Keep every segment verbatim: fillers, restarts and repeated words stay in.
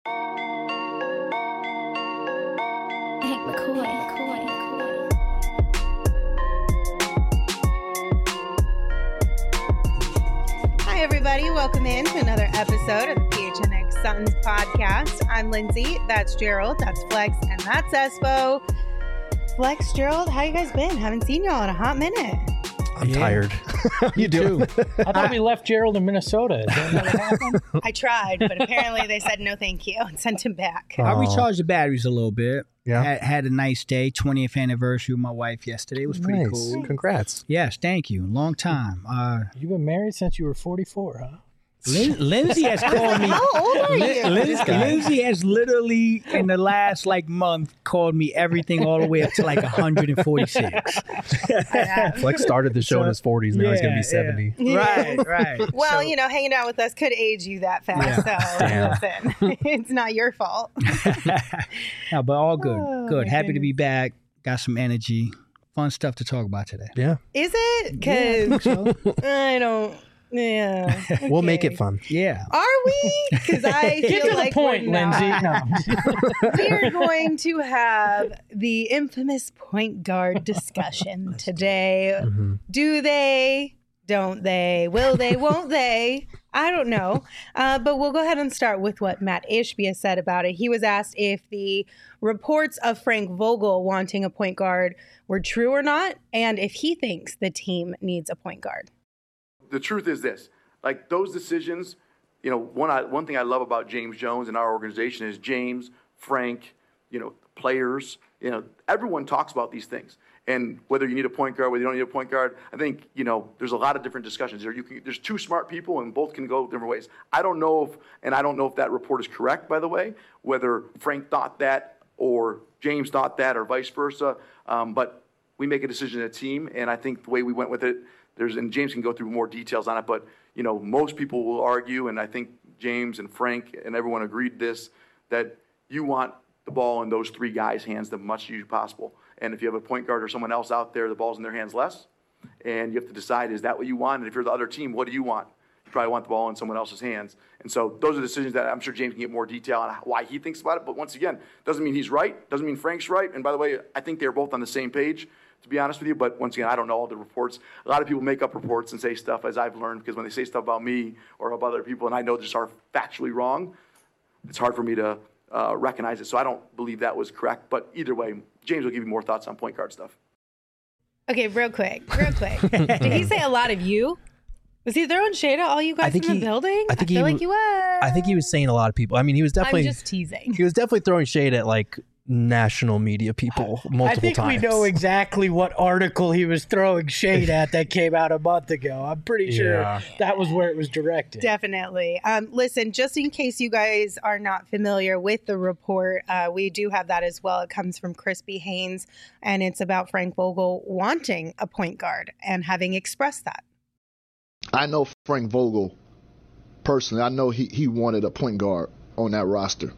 Hank McCoy. McCoy. McCoy. Hi, everybody. Welcome in to another episode of the P H N X Suns podcast. I'm Lindsay. That's Gerald. That's Flex. And that's Espo. Flex, Gerald, how you guys been? Haven't seen y'all in a hot minute. I'm yeah. tired. How you doing? I thought we left Gerald in Minnesota. Is that what happened? I tried, but apparently they said no thank you and sent him back. I recharged the batteries a little bit. Yeah. Had, had a nice day. twentieth anniversary with my wife yesterday. It was pretty nice. cool. Congrats. Yes, thank you. Long time. Uh, You've been married since you were forty-four, huh? Lin- Lindsay has called me. How old are Lin- you? Lin- Lindsay has literally, in the last like month, called me everything all the way up to like one hundred forty-six. Flex started the show So, in his forties. Now he's going to be yeah, seventy. yeah. Right, right. Well, So- you know, hanging out with us could age you that fast. Yeah. So, listen, it's not your fault. No, but all good. Oh, good. my Happy to goodness. be back. Got some energy. Fun stuff to talk about today. Yeah. Is it? Because I don't. Yeah. We'll make okay. it fun. Yeah. Are we? Because I Get feel to like the point, we're not. Lindsay. No. We are going to have the infamous point guard discussion today. Mm-hmm. Do they? Don't they? Will they? Won't they? I don't know. Uh, but we'll go ahead and start with what Matt Ishbia said about it. He was asked if the reports of Frank Vogel wanting a point guard were true or not, and if he thinks the team needs a point guard. The truth is this, like those decisions, you know, one I, one thing I love about James Jones and our organization is James, Frank, you know, players, you know, everyone talks about these things. And whether you need a point guard, whether you don't need a point guard, I think, you know, there's a lot of different discussions there. You can, there's two smart people and both can go different ways. I don't know if, and I don't know if that report is correct, by the way, whether Frank thought that or James thought that or vice versa. Um, but we make a decision as a team, and I think the way we went with it, There's, and James can go through more details on it, but, you know, most people will argue, and I think James and Frank and everyone agreed this, that you want the ball in those three guys' hands the much as possible. And if you have a point guard or someone else out there, the ball's in their hands less. And you have to decide, is that what you want? And if you're the other team, what do you want? You probably want the ball in someone else's hands. And so those are decisions that I'm sure James can get more detail on why he thinks about it. But once again, doesn't mean he's right. Doesn't mean Frank's right. And by the way, I think they're both on the same page, to be honest with you. But once again, I don't know all the reports. A lot of people make up reports and say stuff, as I've learned, because when they say stuff about me or about other people, and I know just are factually wrong, it's hard for me to uh, recognize it. So I don't believe that was correct. But either way, James will give you more thoughts on point guard stuff. Okay, real quick, real quick. Did he say a lot of you? Was he throwing shade at all you guys in the he, building? I think I feel he, like you was. I think he was saying a lot of people. I mean, he was definitely. I'm just teasing. He was definitely throwing shade at like national media people multiple I think times. we know exactly what article he was throwing shade at that came out a month ago. I'm pretty sure Yeah. that was where it was directed. Definitely. Um, listen, just in case you guys are not familiar with the report, uh, we do have that as well. It comes from Crispy Haynes, and it's about Frank Vogel wanting a point guard and having expressed that. I know Frank Vogel personally. I know he, he wanted a point guard on that roster.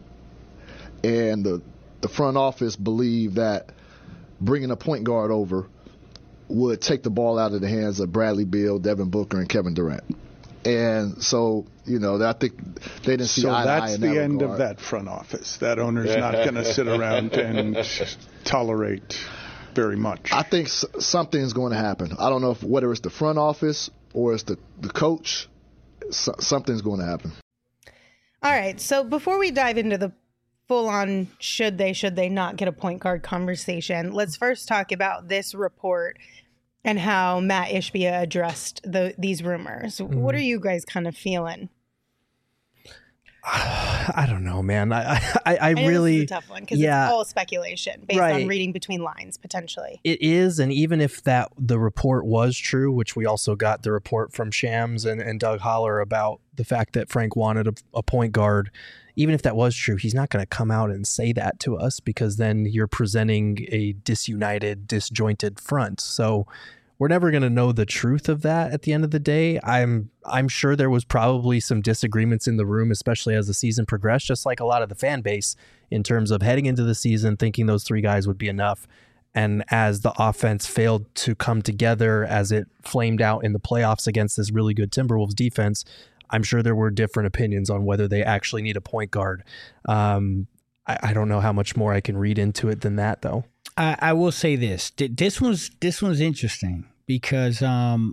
And the the front office believed that bringing a point guard over would take the ball out of the hands of Bradley Beal, Devin Booker, and Kevin Durant. And so, you know, I think they didn't see so eye to eye that's in the that end regard. of that front office. That owner's not going to sit around and tolerate very much. I think s- something's going to happen. I don't know if whether it's the front office or it's the, the coach. So, something's going to happen. All right. So before we dive into the full-on should they, should they not get a point guard conversation, let's first talk about this report and how Matt Ishbia addressed the, these rumors. Mm. What are you guys kind of feeling? I don't know, man. I I, I, I know really this is a tough one because yeah, it's all speculation based right. on reading between lines potentially. It is, and even if that the report was true, which we also got the report from Shams and, and Doug Holler about the fact that Frank wanted a, a point guard, even if that was true, he's not going to come out and say that to us because then you're presenting a disunited, disjointed front. So we're never going to know the truth of that at the end of the day. I'm I'm sure there was probably some disagreements in the room, especially as the season progressed, just like a lot of the fan base in terms of heading into the season, thinking those three guys would be enough. And as the offense failed to come together, as it flamed out in the playoffs against this really good Timberwolves defense, I'm sure there were different opinions on whether they actually need a point guard. Um, I, I don't know how much more I can read into it than that, though. I, I will say this. This one's this one's interesting because um,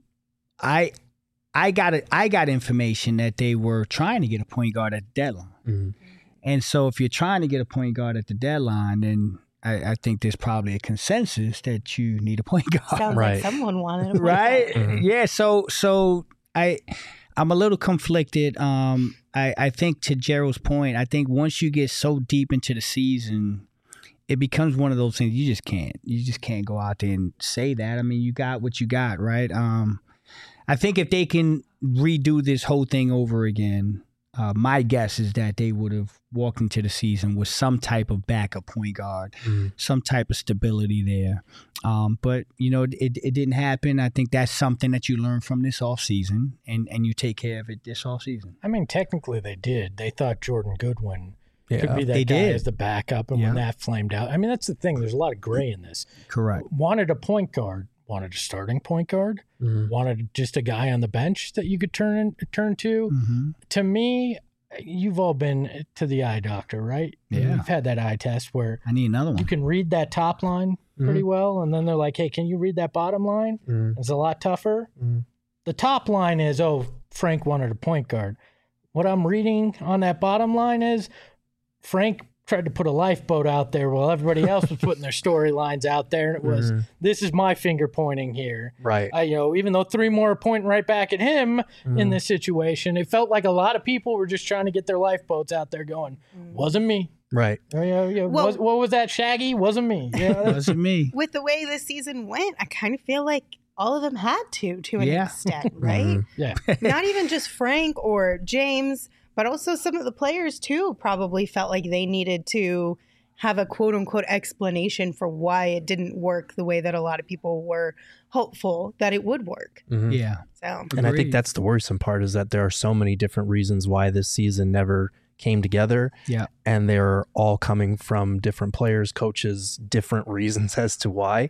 I I got it. I got information that they were trying to get a point guard at the deadline, Mm-hmm. and so if you're trying to get a point guard at the deadline, then I, I think there's probably a consensus that you need a point guard. Sounds Right. like someone wanted a point Right? guard. Mhm. Yeah. So so I I'm a little conflicted. Um, I I think to Gerald's point, I think once you get so deep into the season, it becomes one of those things you just can't you just can't go out there and say that. I mean, you got what you got, right? Um, I think if they can redo this whole thing over again, uh, my guess is that they would have walked into the season with some type of backup point guard, Mhm. some type of stability there. Um, but, you know, it, it didn't happen. I think that's something that you learn from this offseason, and, and you take care of it this offseason. I mean, technically they did. They thought Jordan Goodwin Yeah. could be that They guy did. as the backup, and Yeah. when that flamed out, I mean, that's the thing. There's a lot of gray in this. Correct. Wanted a point guard, wanted a starting point guard, Mhm. wanted just a guy on the bench that you could turn turn to. Mm-hmm. To me, you've all been to the eye doctor, right? Yeah. You've had that eye test where I need another one. you can read that top line pretty well, and then they're like, hey, can you read that bottom line? Mhm. It's a lot tougher. Mhm. The top line is, oh, Frank wanted a point guard. What I'm reading on that bottom line is Frank tried to put a lifeboat out there while everybody else was putting their storylines out there, and it was, Mhm. this is my finger pointing here. Right. I, you know, even though three more are pointing right back at him in Mhm. this situation, it felt like a lot of people were just trying to get their lifeboats out there going, wasn't me. Right. Oh, yeah, yeah. Well- was, what was that, Shaggy? Wasn't me. Yeah, that's- Wasn't me. With the way this season went, I kind of feel like all of them had to, to an Yeah. extent, right? Mhm. yeah. Not even just Frank or James, but also some of the players too probably felt like they needed to have a quote unquote explanation for why it didn't work the way that a lot of people were hopeful that it would work. Mhm. Yeah. So And I think Agreed. that's the worrisome part is that there are so many different reasons why this season never came together. Yeah. And they're all coming from different players, coaches, different reasons as to why.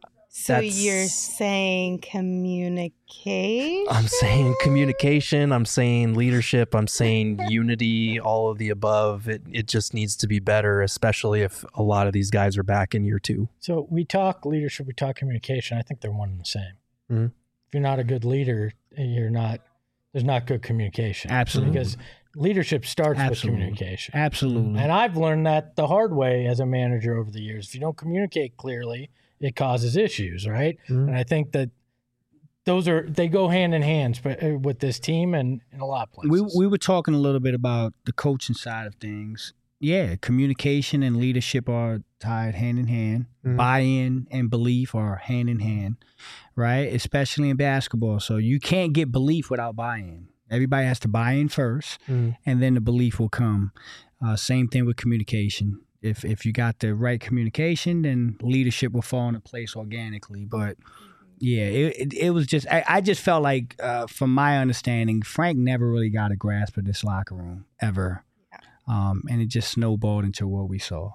So That's- you're saying communication? I'm saying communication, I'm saying leadership, I'm saying unity, all of the above. It it just needs to be better, especially if a lot of these guys are back in year two. So we talk leadership, we talk communication. I think they're one and the same. Mhm. If you're not a good leader, you're not. There's not good communication. Absolutely. Because leadership starts Absolutely. with communication. Absolutely. And I've learned that the hard way as a manager over the years. If you don't communicate clearly, it causes issues, right? Mhm. And I think that those are they go hand in hand but, uh, with this team and in a lot of places. we we were talking a little bit about the coaching side of things. Yeah, communication and leadership are tied hand in hand. Mhm. Buy-in and belief are hand in hand, right? Especially in basketball. So you can't get belief without buy-in. Everybody has to buy in first, Mhm. and then the belief will come. Uh, same thing with communication. If if you got the right communication, then leadership will fall into place organically. But yeah, it it, it was just I, I just felt like, uh, from my understanding, Frank never really got a grasp of this locker room ever, um, and it just snowballed into what we saw.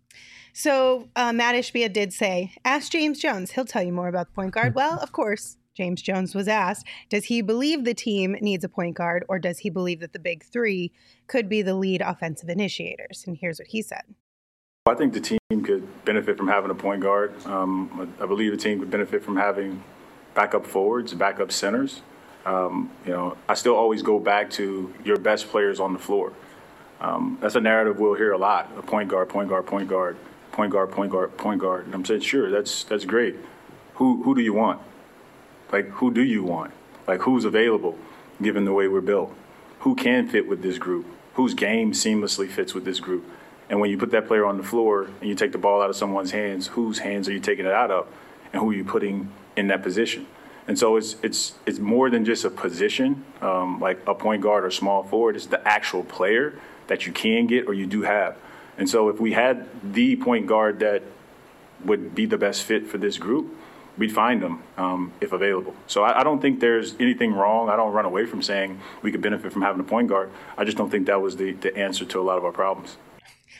So uh, Matt Ishbia did say, ask James Jones. He'll tell you more about the point guard. Well, of course, James Jones was asked, does he believe the team needs a point guard, or does he believe that the big three could be the lead offensive initiators? And here's what he said. I think the team could benefit from having a point guard. Um, I believe the team could benefit from having backup forwards, backup centers. Um, you know, I still always go back to your best players on the floor. Um, that's a narrative we'll hear a lot: a point guard, point guard, point guard, point guard, point guard, point guard. And I'm saying, sure, that's that's great. Who who do you want? Like, who do you want? Like, who's available, given the way we're built? Who can fit with this group? Whose game seamlessly fits with this group? And when you put that player on the floor and you take the ball out of someone's hands, whose hands are you taking it out of, and who are you putting in that position? And so it's it's it's more than just a position, um, like a point guard or small forward. It's the actual player that you can get or you do have. And so if we had the point guard that would be the best fit for this group, we'd find them um, if available. So I, I don't think there's anything wrong. I don't run away from saying we could benefit from having a point guard. I just don't think that was the, the answer to a lot of our problems.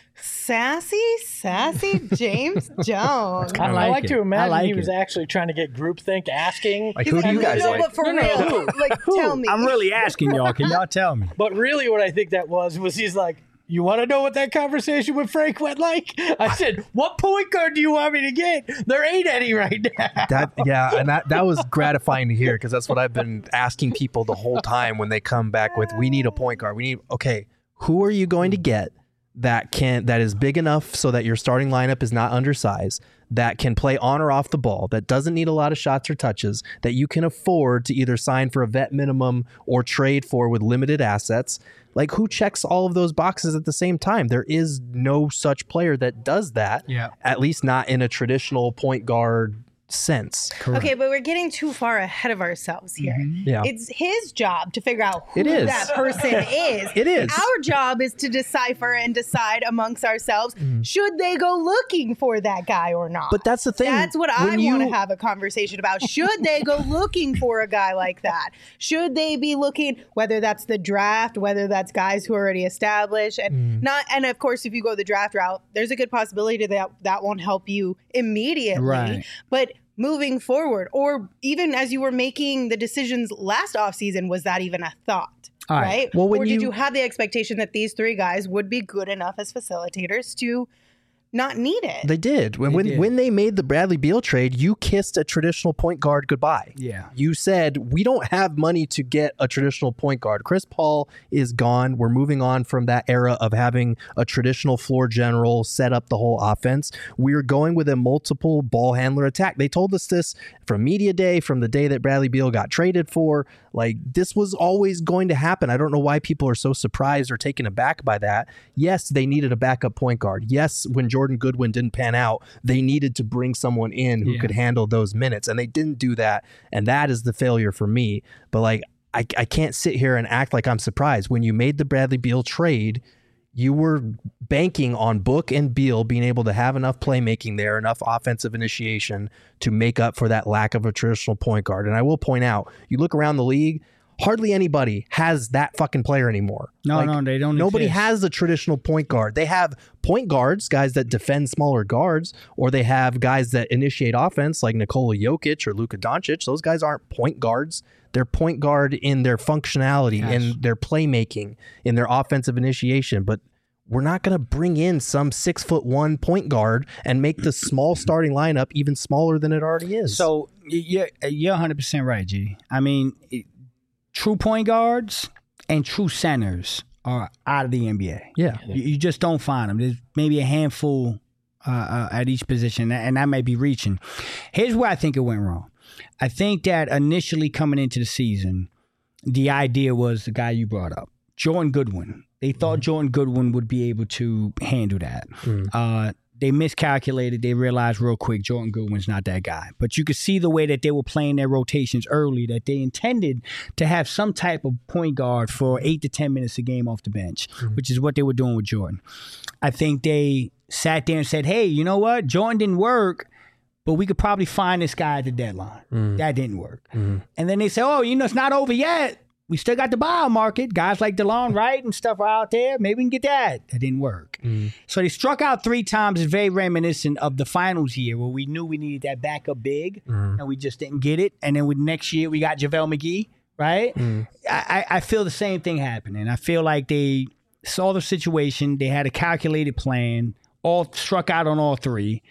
Sassy, sassy James Jones. I, I like, like to imagine like he was it. actually trying to get groupthink, asking. Like, who do you guys no, like? but for No, no, real, who? like, tell me. I'm really asking y'all. Can y'all tell me? But really, what I think that was was he's like, "You want to know what that conversation with Frank went like?" I said, "What point guard do you want me to get? There ain't any right now." That yeah, and that that was gratifying to hear because that's what I've been asking people the whole time when they come back with, "We need a point guard. We need okay, who are you going to get that can that is big enough so that your starting lineup is not undersized, that can play on or off the ball, that doesn't need a lot of shots or touches, that you can afford to either sign for a vet minimum or trade for with limited assets?" Like, who checks all of those boxes at the same time? There is no such player that does that, Yeah. at least not in a traditional point guard sense. Okay, but we're getting too far ahead of ourselves here. Yeah. It's his job to figure out who It is. that person is. It is. Our job is to decipher and decide amongst ourselves, should they go looking for that guy or not? But that's the thing. That's what I When want to you- have a conversation about. Should they go looking for a guy like that? Should they be looking, whether that's the draft, whether that's guys who are already established, and not, and of course, if you go the draft route, there's a good possibility that that won't help you immediately. Right. But moving forward, or even as you were making the decisions last offseason, was that even a thought? All right. Right? Well, when or did you- you have the expectation that these three guys would be good enough as facilitators to not need it? They did. When They when, did. when they made the Bradley Beal trade, you kissed a traditional point guard goodbye. Yeah. You said, we don't have money to get a traditional point guard. Chris Paul is gone. We're moving on from that era of having a traditional floor general set up the whole offense. We're going with a multiple ball handler attack. They told us this from media day, from the day that Bradley Beal got traded for. Like, this was always going to happen. I don't know why people are so surprised or taken aback by that. Yes, they needed a backup point guard. Yes, when Jordan Goodwin didn't pan out, they needed to bring someone in who Yeah. could handle those minutes, and they didn't do that, and that is the failure for me. But like, I, I can't sit here and act like I'm surprised. When you made the Bradley Beal trade, you were banking on Book and Beal being able to have enough playmaking there, enough offensive initiation to make up for that lack of a traditional point guard. And I will point out, you look around the league, hardly anybody has that fucking player anymore. No, Like, no, they don't Nobody exist. has a traditional point guard. They have point guards, guys that defend smaller guards, or they have guys that initiate offense like Nikola Jokic or Luka Doncic. Those guys aren't point guards. They're point guard in their functionality, Yes. in their playmaking, in their offensive initiation. But we're not going to bring in some six foot one point guard and make the small starting lineup even smaller than it already is. So y- you're, you're one hundred percent right, G. I mean, it, true point guards and true centers are out of the N B A. yeah, You, you just don't find them. There's maybe a handful uh, uh, at each position, and that may be reaching. Here's where I think it went wrong. I think that initially coming into the season, the idea was the guy you brought up, Jordan Goodwin. They thought Jordan Goodwin would be able to handle that. Uh, they miscalculated. They realized real quick Jordan Goodwin's not that guy. But you could see the way that they were playing their rotations early, that they intended to have some type of point guard for eight to ten minutes a game off the bench, which is what they were doing with Jordan. I think they sat there and said, hey, you know what? Jordan didn't work, but we could probably find this guy at the deadline. That didn't work. And then they said, oh, you know, it's not over yet. We still got the buyout market. Guys like DeLon Wright and stuff are out there. Maybe we can get that. That didn't work. So they struck out three times. It's very reminiscent of the finals year where we knew we needed that backup big and we just didn't get it. And then with next year, we got JaVale McGee, right? I, I feel the same thing happening. I feel like they saw the situation. They had a calculated plan, all struck out on all three.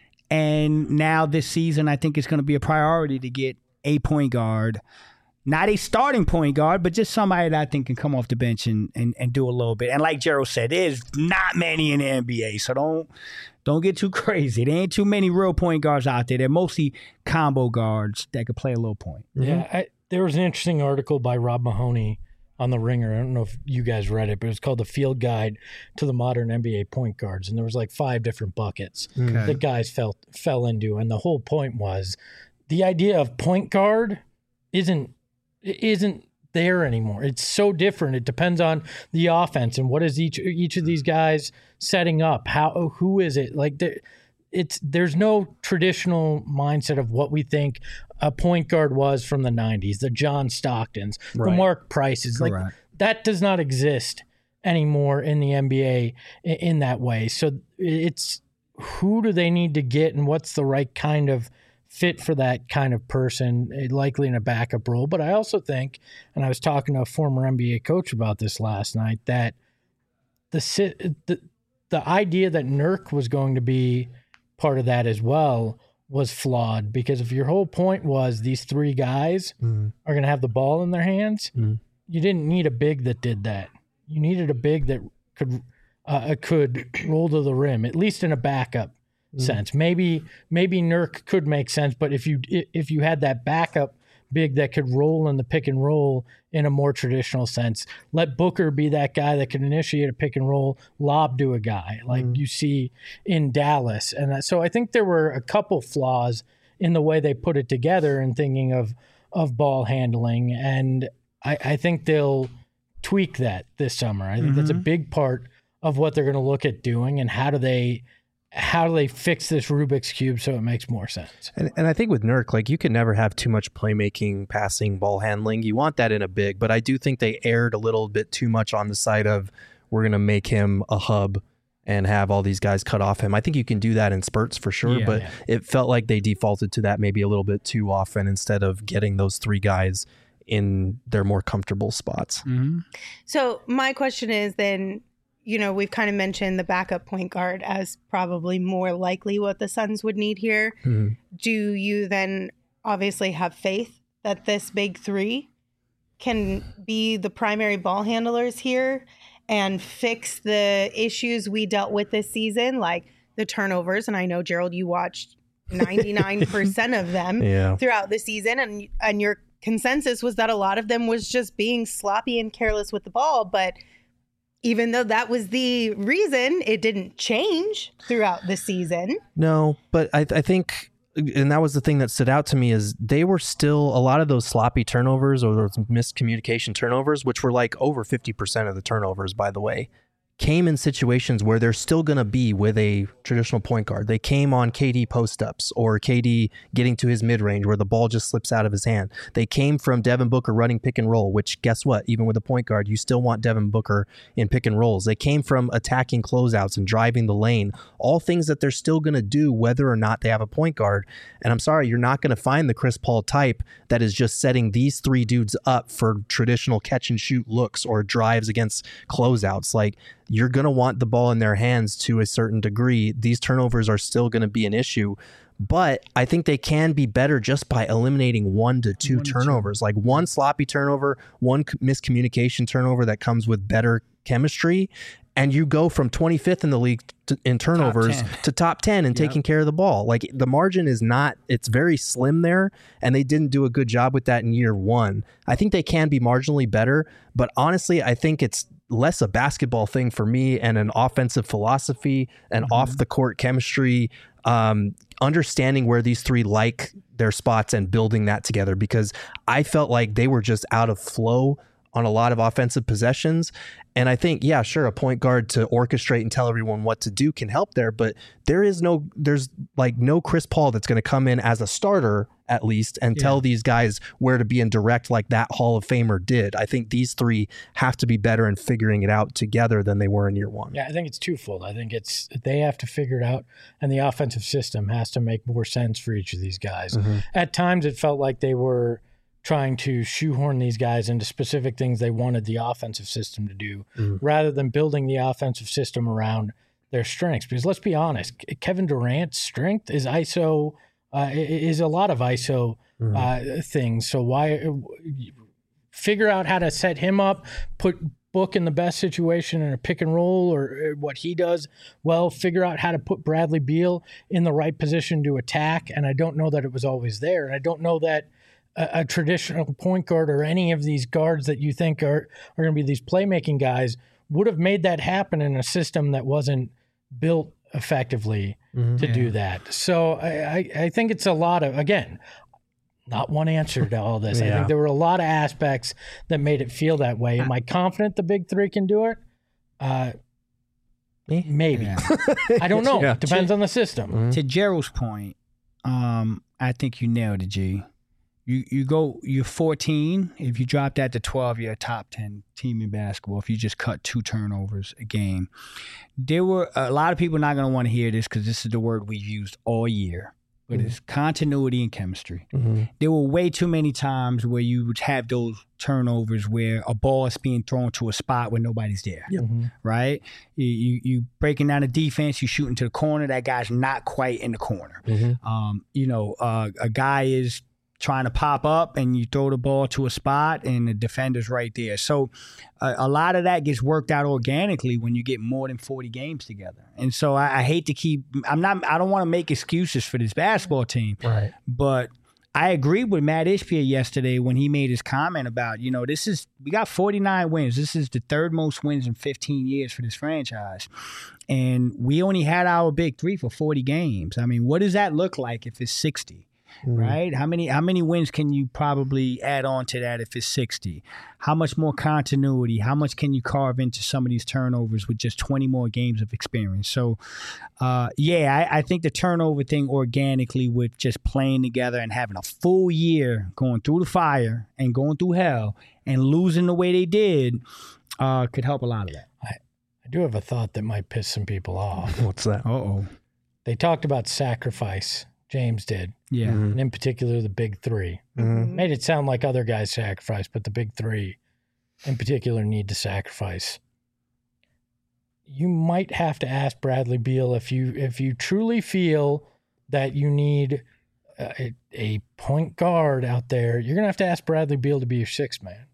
And now this season, I think it's going to be a priority to get a point guard. Not a starting point guard, but just somebody that I think can come off the bench and, and, and do a little bit. And like Gerald said, there's not many in the N B A, so don't don't get too crazy. There ain't too many real point guards out there. They're mostly combo guards that could play a little point. Yeah, I, there was an interesting article by Rob Mahoney on The Ringer. I don't know if you guys read it, but it was called The Field Guide to the Modern N B A Point Guards. And there was like five different buckets that guys fell, fell into. And the whole point was the idea of point guard isn't isn't there anymore. It's so different. It depends on the offense and what is each each of these guys setting up. How who is it? Like there, it's there's no traditional mindset of what we think a point guard was from the nineties, the John Stocktons, the Right. Mark Prices. Like Correct. that does not exist anymore in the N B A in, in that way. So it's who do they need to get and what's the right kind of fit for that kind of person, likely in a backup role. But I also think, and I was talking to a former N B A coach about this last night, that the the, the idea that Nurk was going to be part of that as well was flawed, because if your whole point was these three guys mm. are going to have the ball in their hands, mm. you didn't need a big that did that. You needed a big that could uh, could roll to the rim, at least in a backup mm. sense. Maybe maybe Nurk could make sense, but if you if you had that backup big that could roll in the pick and roll in a more traditional sense, let Booker be that guy that could initiate a pick and roll, lob to a guy like mm. you see in Dallas. And that, so I think there were a couple flaws in the way they put it together and thinking of of ball handling. And I, I think they'll tweak that this summer. I think mm-hmm. that's a big part of what they're going to look at doing, and how do they how do they fix this Rubik's Cube so it makes more sense? And, and I think with Nurk, like, you can never have too much playmaking, passing, ball handling. You want that in a big, but I do think they erred a little bit too much on the side of we're going to make him a hub and have all these guys cut off him. I think you can do that in spurts for sure, yeah, but yeah. it felt like they defaulted to that maybe a little bit too often instead of getting those three guys in their more comfortable spots. Mm-hmm. So my question is then, you know, we've kind of mentioned the backup point guard as probably more likely what the Suns would need here. Mm-hmm. Do you then obviously have faith that this big three can be the primary ball handlers here and fix the issues we dealt with this season, like the turnovers? And I know, Gerald, you watched ninety-nine percent of them yeah. throughout the season, and and your consensus was that a lot of them was just being sloppy and careless with the ball. But even though that was the reason, it didn't change throughout the season. No, but I, I think, and that was the thing that stood out to me, is they were still, a lot of those sloppy turnovers or those miscommunication turnovers, which were like over fifty percent of the turnovers, by the way, came in situations where they're still going to be with a traditional point guard. They came on K D post-ups or K D getting to his mid-range where the ball just slips out of his hand. They came from Devin Booker running pick and roll, which, guess what? Even with a point guard, you still want Devin Booker in pick and rolls. They came from attacking closeouts and driving the lane, all things that they're still going to do whether or not they have a point guard. And I'm sorry, you're not going to find the Chris Paul type that is just setting these three dudes up for traditional catch and shoot looks or drives against closeouts. Like, you're going to want the ball in their hands to a certain degree. These turnovers are still going to be an issue, but I think they can be better just by eliminating one to two one turnovers, two. Like one sloppy turnover, one miscommunication turnover that comes with better chemistry. And you go from twenty-fifth in the league to, in turnovers top to top ten and yep. taking care of the ball. Like, the margin is not, it's very slim there, and they didn't do a good job with that in year one. I think they can be marginally better, but honestly, I think it's less a basketball thing for me and an offensive philosophy and mm-hmm. off the court chemistry, um, understanding where these three like their spots and building that together, because I felt like they were just out of flow on a lot of offensive possessions. And I think, yeah, sure, a point guard to orchestrate and tell everyone what to do can help there, but there is no, there's like no Chris Paul that's going to come in as a starter, at least, and yeah. tell these guys where to be in direct like that Hall of Famer did. I think these three have to be better in figuring it out together than they were in year one. Yeah, I think it's twofold. I think it's they have to figure it out, and the offensive system has to make more sense for each of these guys. Mm-hmm. At times, it felt like they were trying to shoehorn these guys into specific things they wanted the offensive system to do, mm. rather than building the offensive system around their strengths. Because let's be honest, Kevin Durant's strength is I S O, uh, is a lot of I S O mm. uh, things. So why figure out how to set him up, put Book in the best situation in a pick and roll or what he does well, figure out how to put Bradley Beal in the right position to attack. And I don't know that it was always there. And I don't know that A, a traditional point guard or any of these guards that you think are, are going to be these playmaking guys would have made that happen in a system that wasn't built effectively mm-hmm. to yeah. do that. So I, I, I think it's a lot of, again, not one answer to all this. yeah. I think there were a lot of aspects that made it feel that way. Am I confident the big three can do it? Uh, maybe. Yeah. I don't know. Yeah. Depends to, on the system. Mm-hmm. To Gerald's point, um, I think you nailed it, G. You you go you're fourteen. If you drop that to twelve, you're a top ten team in basketball. If you just cut two turnovers a game, there were a lot of people not going to want to hear this because this is the word we've used all year. But mm-hmm. it's continuity and chemistry. Mm-hmm. There were way too many times where you would have those turnovers where a ball is being thrown to a spot where nobody's there, mm-hmm. right? You, you you breaking down the defense, you shooting to the corner, that guy's not quite in the corner. Mm-hmm. Um, you know, uh, a guy is trying to pop up and you throw the ball to a spot and the defender's right there. So uh, a lot of that gets worked out organically when you get more than forty games together. And so I, I hate to keep, I'm not, I don't want to make excuses for this basketball team, right? But I agreed with Matt Ishbia yesterday when he made his comment about, you know, this is, we got forty-nine wins. This is the third most wins in fifteen years for this franchise. And we only had our big three for forty games. I mean, what does that look like if it's sixty? Mm-hmm. Right? How many how many wins can you probably add on to that if it's sixty? How much more continuity? How much can you carve into some of these turnovers with just twenty more games of experience? So, uh, yeah, I, I think the turnover thing organically with just playing together and having a full year going through the fire and going through hell and losing the way they did uh, could help a lot of that. I, I do have a thought that might piss some people off. What's that? Uh-oh. They talked about sacrifice. James did. Yeah. Mm-hmm. And in particular, the big three. Mm-hmm. Made it sound like other guys sacrificed, but the big three in particular need to sacrifice. You might have to ask Bradley Beal if you if you truly feel that you need a, a point guard out there, you're going to have to ask Bradley Beal to be your sixth man.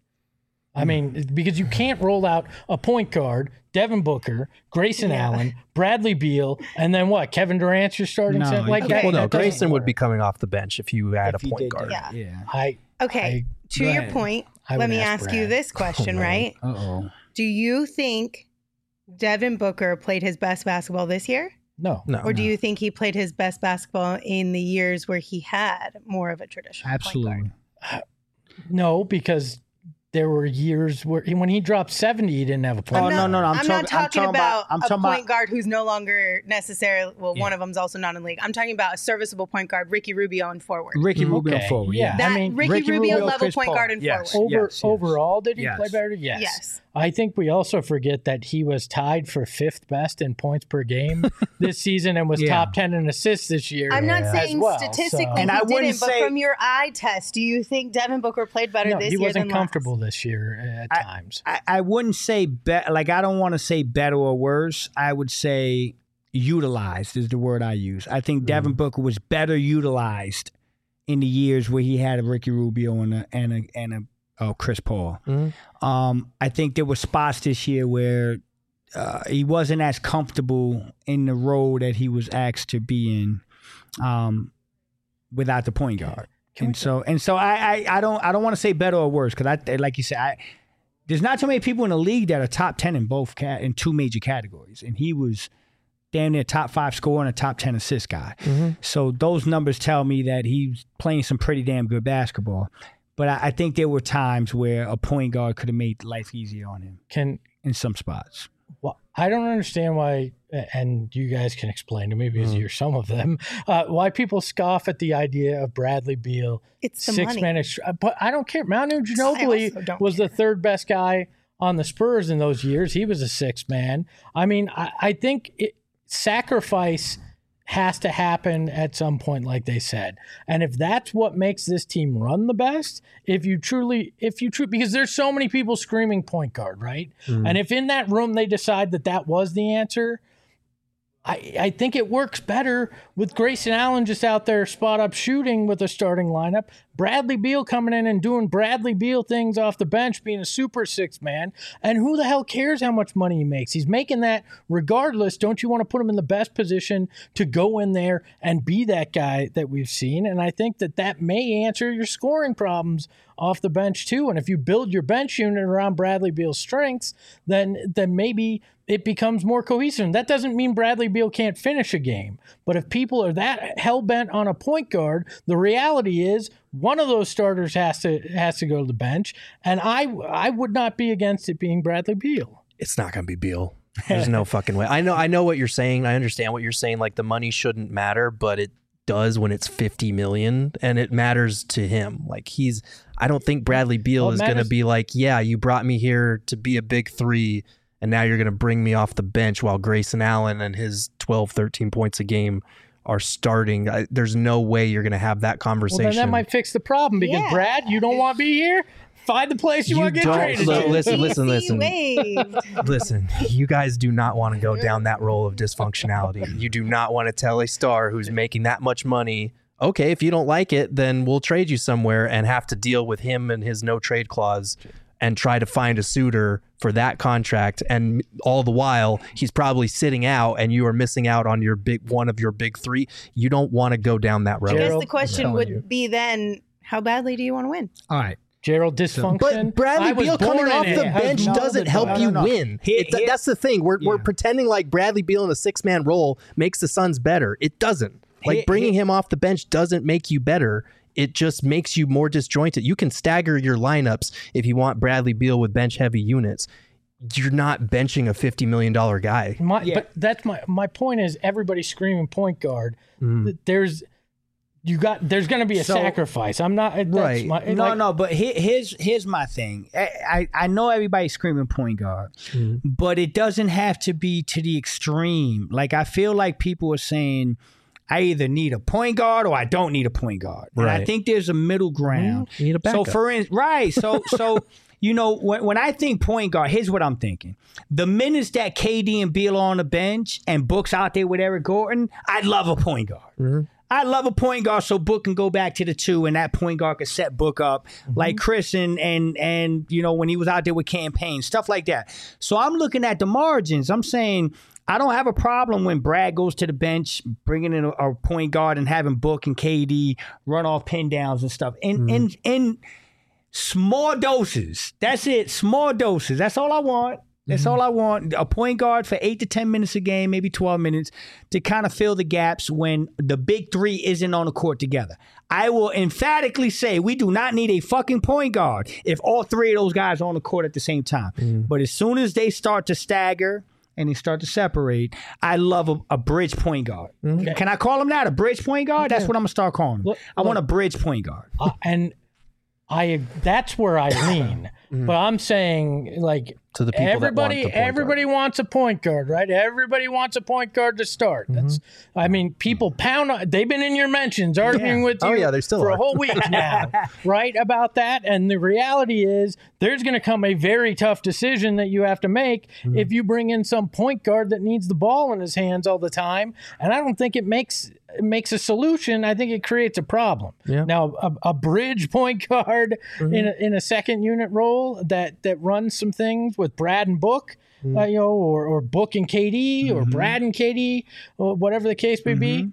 I mean, because you can't roll out a point guard, Devin Booker, Grayson yeah. Allen, Bradley Beal, and then what? Kevin Durant's your starting no, center? Like okay. that, well, no, that Grayson would be coming off the bench if you had if a point guard. Yeah. yeah. I, okay. I, to your ahead. point, I let me ask ask you Brad. this question, Oh, right? Uh-oh. Do you think Devin Booker played his best basketball this year? No. No. Or do you think he played his best basketball in the years where he had more of a traditional Absolutely. point guard? No, because there were years where when he dropped seventy, he didn't have a point Oh, guard. no, no, no. I'm, I'm talking, not talking, I'm talking about, I'm a talking point about, guard who's no longer necessarily, well, Yeah. one of them's also not in the league. I'm talking about a serviceable point guard, Ricky Rubio and forward. Ricky Rubio Okay, forward. yeah. that I mean, Ricky, Ricky Rubio, Rubio, level Chris point Paul. guard and Yes. forward. Over Yes, yes. overall, did he Yes. play better? Yes. Yes. I think we also forget that he was tied for fifth best in points per game this season and was Yeah. top ten in assists this year. I'm not as saying well, statistically so- he And I wouldn't didn't, but say- from your eye test, do you think Devin Booker played better No, this he year wasn't than comfortable last? this year at I- times. I, I wouldn't say, be, like, I don't want to say better or worse. I would say utilized is the word I use. I think Devin Booker was better utilized in the years where he had a Ricky Rubio and a, and a, and a oh, Chris Paul. Mm-hmm. Um, I think there were spots this year where uh, he wasn't as comfortable in the role that he was asked to be in um, without the point guard. Can and we- so and so I I, I don't I don't want to say better or worse because I like you said I there's not too many people in the league that are top ten in both cat in two major categories, and he was damn near top five scorer and a top ten assist guy. Mm-hmm. So those numbers tell me that he's playing some pretty damn good basketball. But I, I think there were times where a point guard could have made life easier on him Can in some spots. well, I don't understand why, and you guys can explain to me because you're some of them, uh, why people scoff at the idea of Bradley Beal It's the six money. man. ex- But I don't care. Manu I also Ginobili don't was the third best guy on the Spurs in those years. He was a six man. I mean, I, I think it, sacrifice has to happen at some point, like they said. And if that's what makes this team run the best, if you truly, if you truly, because there's so many people screaming point guard, right? Mm-hmm. And if in that room they decide that that was the answer, I, I think it works better with Grayson Allen just out there spot up shooting with a starting lineup. Bradley Beal coming in and doing Bradley Beal things off the bench, being a super six man. And who the hell cares how much money he makes? He's making that regardless. Don't you want to put him in the best position to go in there and be that guy that we've seen? And I think that that may answer your scoring problems off the bench too. And if you build your bench unit around Bradley Beal's strengths, then then maybe it becomes more cohesive. And that doesn't mean Bradley Beal can't finish a game. But if people are that hell-bent on a point guard, the reality is one of those starters has to has to go to the bench. And I I would not be against it being Bradley Beal. It's not going to be Beal. There's no fucking way. I know I know what you're saying. I understand what you're saying. Like the money shouldn't matter, but it does when it's fifty million and it matters to him. Like he's, I don't think Bradley Beal Well, is going to matters- be like, yeah, you brought me here to be a big three and now you're going to bring me off the bench while Grayson Allen and his twelve, thirteen points a game are starting. I, there's no way you're going to have that Well, conversation. then that might fix the problem because Yeah. Brad, you don't want to be here. Find the place you, You want to get don't- traded look, to. listen, listen, listen. Waved. Listen, you guys do not want to go down that role of dysfunctionality. You do not want to tell a star who's making that much money, okay, if you don't like it, then we'll trade you somewhere and have to deal with him and his no trade clause and try to find a suitor for that contract. And all the while, he's probably sitting out and you are missing out on your big one of your big three. You don't want to go down that road. I guess Gerald, the question I'm would telling you. be then, how badly do you want to win? All right. Gerald dysfunction. But Bradley I was Beal coming born off in the it. I bench know doesn't the- help no, you no, no. win. Here- It- here- that's the thing. We're, we're Yeah. pretending like Bradley Beal in a six-man role makes the Suns better. It doesn't. Like Here- bringing here- him off the bench doesn't make you better. It just makes you more disjointed. You can stagger your lineups if you want Bradley Beal with bench-heavy units. You're not benching a fifty million dollars guy. My, Yeah. But that's my my point is everybody's screaming point guard. Mm. Th- There's you got there's going to be a So- sacrifice. I'm not that's Right. My, No, like, no, but here, here's here's my thing. I, I I know everybody's screaming point guard, Mhm. but it doesn't have to be to the extreme. Like I feel like people are saying, I either need a point guard or I don't need a point guard. And I Right. think there's a middle ground. You need a So backup. for instance, right? So so you know when when I think point guard, here's what I'm thinking: the minutes that K D and Beal are on the bench and Book's out there with Eric Gordon, I'd love a point guard. Mhm. I love a point guard so Book can go back to the two and that point guard can set Book up like Chris and and and you know when he was out there with campaign stuff like that. So I'm looking at the margins. I'm saying I don't have a problem when Brad goes to the bench, bringing in a, a point guard and having Book and K D run off pin downs and stuff. In in in small doses. That's it. Small doses. That's all I want. That's all I want. A point guard for eight to ten minutes a game, maybe twelve minutes, to kind of fill the gaps when the big three isn't on the court together. I will emphatically say we do not need a fucking point guard if all three of those guys are on the court at the same time. But as soon as they start to stagger and they start to separate, I love a, a bridge point guard. Can I call him that? A bridge point guard? That's what I'm going to start calling him. Look- I want a bridge point guard. uh, and I that's where I lean. But I'm saying like To the people that want everybody the point guard. everybody wants a point guard, right? Everybody wants a point guard to start. That's I mean, people pound on they've been in your mentions arguing Yeah. with you Oh, yeah, they still for are. a whole week now, right? About that. And the reality is there's gonna come a very tough decision that you have to make if you bring in some point guard that needs the ball in his hands all the time. And I don't think it makes it makes a solution. I think it creates a problem. Yeah. Now, a, a bridge point guard in a, in a second unit role that that runs some things with Brad and Book, uh, you know, or or Book and K D, or Brad and K D, or whatever the case may be.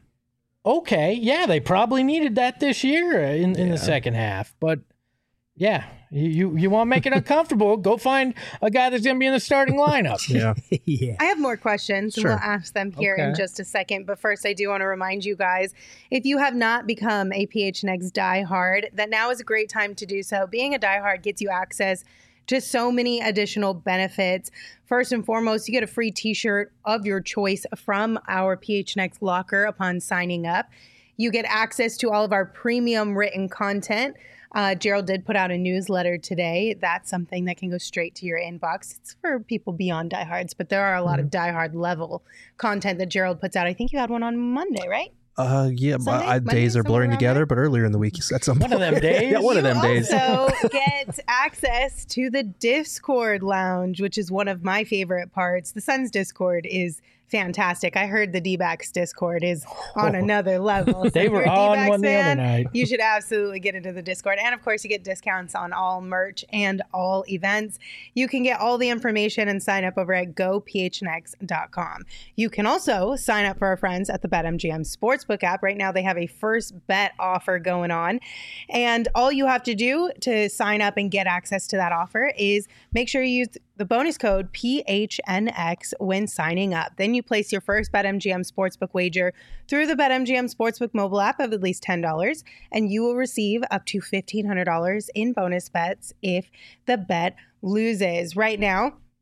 Okay, yeah, they probably needed that this year in, in the second half, but yeah, you you, you want to make it uncomfortable? Go find a guy that's going to be in the starting lineup. Yeah. Yeah. I have more questions, and Sure. we'll ask them here in Okay. just a second. But first, I do want to remind you guys, if you have not become a P H N X diehard, that now is a great time to do so. Being a diehard gets you access to so many additional benefits. First and foremost, you get a free t-shirt of your choice from our P H N X locker upon signing up. You get access to all of our premium written content. Uh, Gerald did put out a newsletter today. That's something that can go straight to your inbox. It's for people beyond diehards, but there are a lot of diehard level content that Gerald puts out. I think you had one on Monday, right? Uh, yeah, but Sunday? I, Monday, days are somewhere blurring around together, there? but earlier in the week at some One of point. them days. yeah, one of them you days. also get access to the Discord lounge, which is one of my favorite parts. The Suns Discord is fantastic. I heard the D-backs Discord is on another level. So They if were you're a on D-backs one the other fan, night. You should absolutely get into the Discord. And of course, you get discounts on all merch and all events. You can get all the information and sign up over at go p h n x dot com. You can also sign up for our friends at the BetMGM Sportsbook app. Right now, they have a first bet offer going on. And all you have to do to sign up and get access to that offer is make sure you use the bonus code P H N X when signing up. Then you place your first BetMGM Sportsbook wager through the BetMGM Sportsbook mobile app of at least ten dollars, and you will receive up to fifteen hundred dollars in bonus bets if the bet loses. Right now,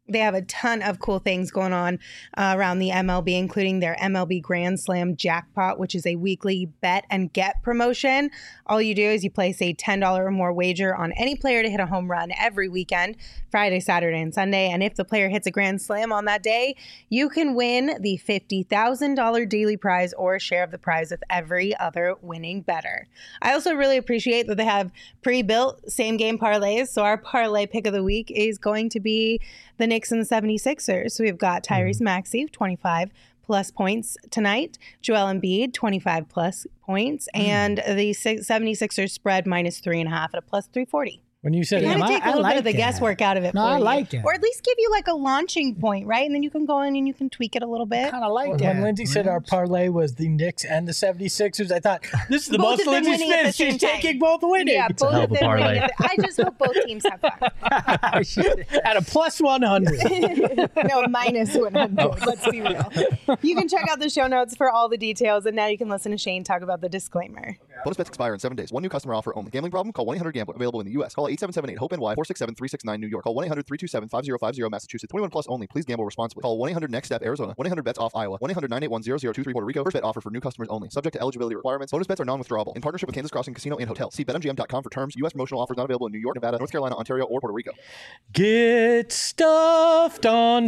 They have a ton of cool things going on uh, around the M L B, including their M L B Grand Slam Jackpot, which is a weekly bet and get promotion. All you do is you place a ten dollars or more wager on any player to hit a home run every weekend, Friday, Saturday, and Sunday. And if the player hits a Grand Slam on that day, you can win the fifty thousand dollars daily prize or a share of the prize with every other winning bettor. I also really appreciate that they have pre-built same-game parlays. So our parlay pick of the week is going to be the Knicks and the seventy-sixers. So we've got Tyrese Maxey, twenty-five plus points tonight. Joel Embiid, twenty-five plus points. Mm. And the seventy-sixers spread minus three and a half at a plus three forty. When you said, kind of I- take a I little like bit of the that. guesswork out of it No, for I you. like that. Or at least give you like a launching point, right? And then you can go in and you can tweak it a little bit. Kind of like when that. Lindsay said our parlay was the Knicks and the seventy-sixers, I thought, this is the Both most of them Lindsay winning at the Smith. same She's time. taking both winning. Yeah, It's a both hell of of a them winning parlay. at the- I just hope both teams have fun. At a plus one hundred. No, minus one hundred. Let's be real. You can check out the show notes for all the details, and now you can listen to Shane talk about the disclaimer. Bonus bets expire in seven days. One new customer offer only. Gambling problem? Call one eight hundred gambler. Available in the U S. Call eight seven seven eight hope N Y four six seven three six nine New York. Call one eight hundred three two seven five zero five zero Massachusetts. twenty-one plus only. Please gamble responsibly. Call one eight hundred next step Arizona. one eight hundred bets off Iowa. one eight hundred nine eight one zero zero two three Puerto Rico. First bet offer for new customers only. Subject to eligibility requirements. Bonus bets are non-withdrawable. In partnership with Kansas Crossing Casino and Hotel. See bet M G M dot com for terms. U S promotional offers not available in New York, Nevada, North Carolina, Ontario, or Puerto Rico. Get stuffed,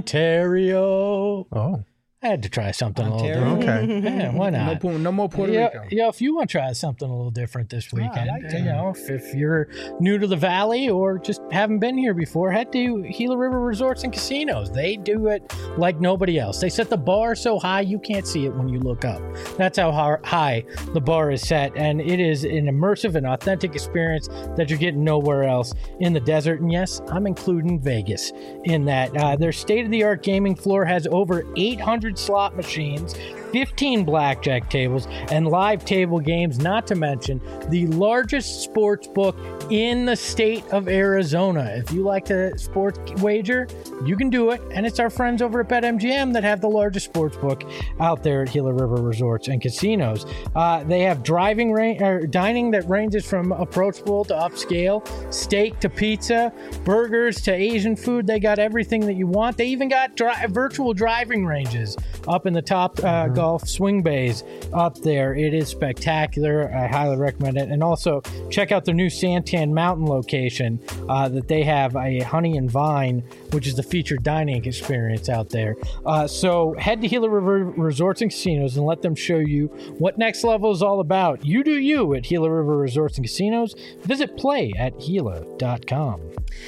Ontario. Oh. I had to try something Ontario? a little different. Okay. Yeah, why No, not? Pu- no more Puerto yeah, Rico. yeah, if you want to try something a little different this weekend, like that. you know, if, if you're new to the Valley or just haven't been here before, head to Gila River Resorts and Casinos. They do it like nobody else. They set the bar so high you can't see it when you look up. That's how har- high the bar is set, and it is an immersive and authentic experience that you're getting nowhere else in the desert. And yes, I'm including Vegas in that. Uh, their state-of-the-art gaming floor has over eight hundred slot machines, fifteen blackjack tables, and live table games, not to mention the largest sports book in the state of Arizona. If you like to sports wager, you can do it, and it's our friends over at BetMGM that have the largest sports book out there at Gila River Resorts and Casinos. Uh, they have driving ra- or dining that ranges from approachable to upscale, steak to pizza, burgers to Asian food. They got everything that you want. They even got dri- virtual driving ranges up in the top uh, golf swing bays up there. It is spectacular. I highly recommend it. And also check out their new Santan Mountain location uh, that they have, a Honey and Vine, which is the featured dining experience out there. Uh, so head to Gila River Resorts and Casinos and let them show you what Next Level is all about. You do you at Gila River Resorts and Casinos. Visit play at gila dot com.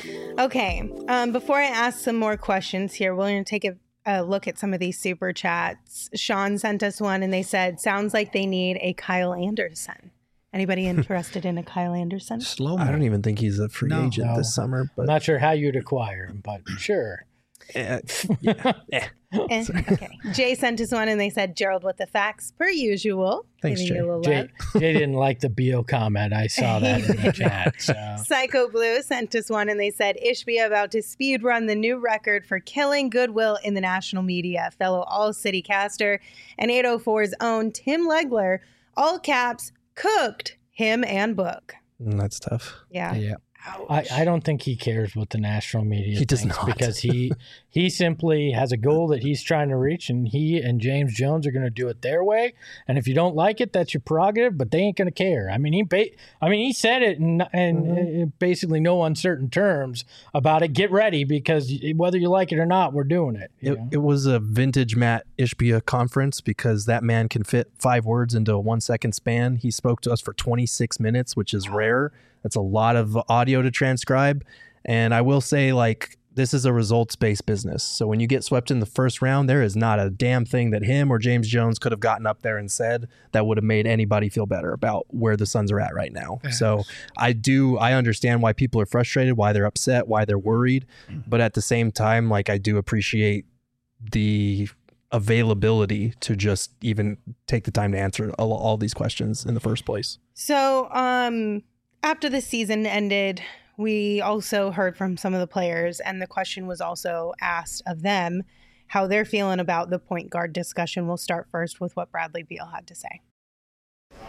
Okay, um, before I ask some more questions here, we're going to take a a look at some of these super chats. Sean sent us one and they said, sounds like they need a Kyle Anderson. Anybody interested in a Kyle Anderson? Slow I don't even think he's a free No. agent No. this summer, I'm but not sure how you'd acquire him, but sure. eh, yeah, eh. Eh, okay. Jay sent us one and they said, Gerald with the facts per usual. Thanks, Giving you Jay. a little Jay, love. Jay didn't like the B O comment. I saw that in the chat. So. Psycho Blue sent us one and they said, Ishbia about to speed run the new record for killing goodwill in the national media. Fellow All City caster and eight oh four's own Tim Legler, all caps, cooked him and Book. Mm, that's tough. Yeah. Yeah. I, I don't think he cares what the national media He does thinks not. because he he simply has a goal that he's trying to reach, and he and James Jones are going to do it their way. And if you don't like it, that's your prerogative, but they ain't going to care. I mean, he ba- I mean he said it in, in Mm-hmm. uh, basically no uncertain terms about it. Get ready because whether you like it or not, we're doing it. you It, know? it was a vintage Matt Ishbia conference because that man can fit five words into a one second span. He spoke to us for twenty-six minutes, which is rare. That's a lot of audio to transcribe. And I will say, like, this is a results-based business. So when you get swept in the first round, there is not a damn thing that him or James Jones could have gotten up there and said that would have made anybody feel better about where the Suns are at right now. So I do, I understand why people are frustrated, why they're upset, why they're worried. But at the same time, like, I do appreciate the availability to just even take the time to answer all, all these questions in the first place. So, um, after the season ended, we also heard from some of the players, and the question was also asked of them how they're feeling about the point guard discussion. We'll start first with what Bradley Beal had to say.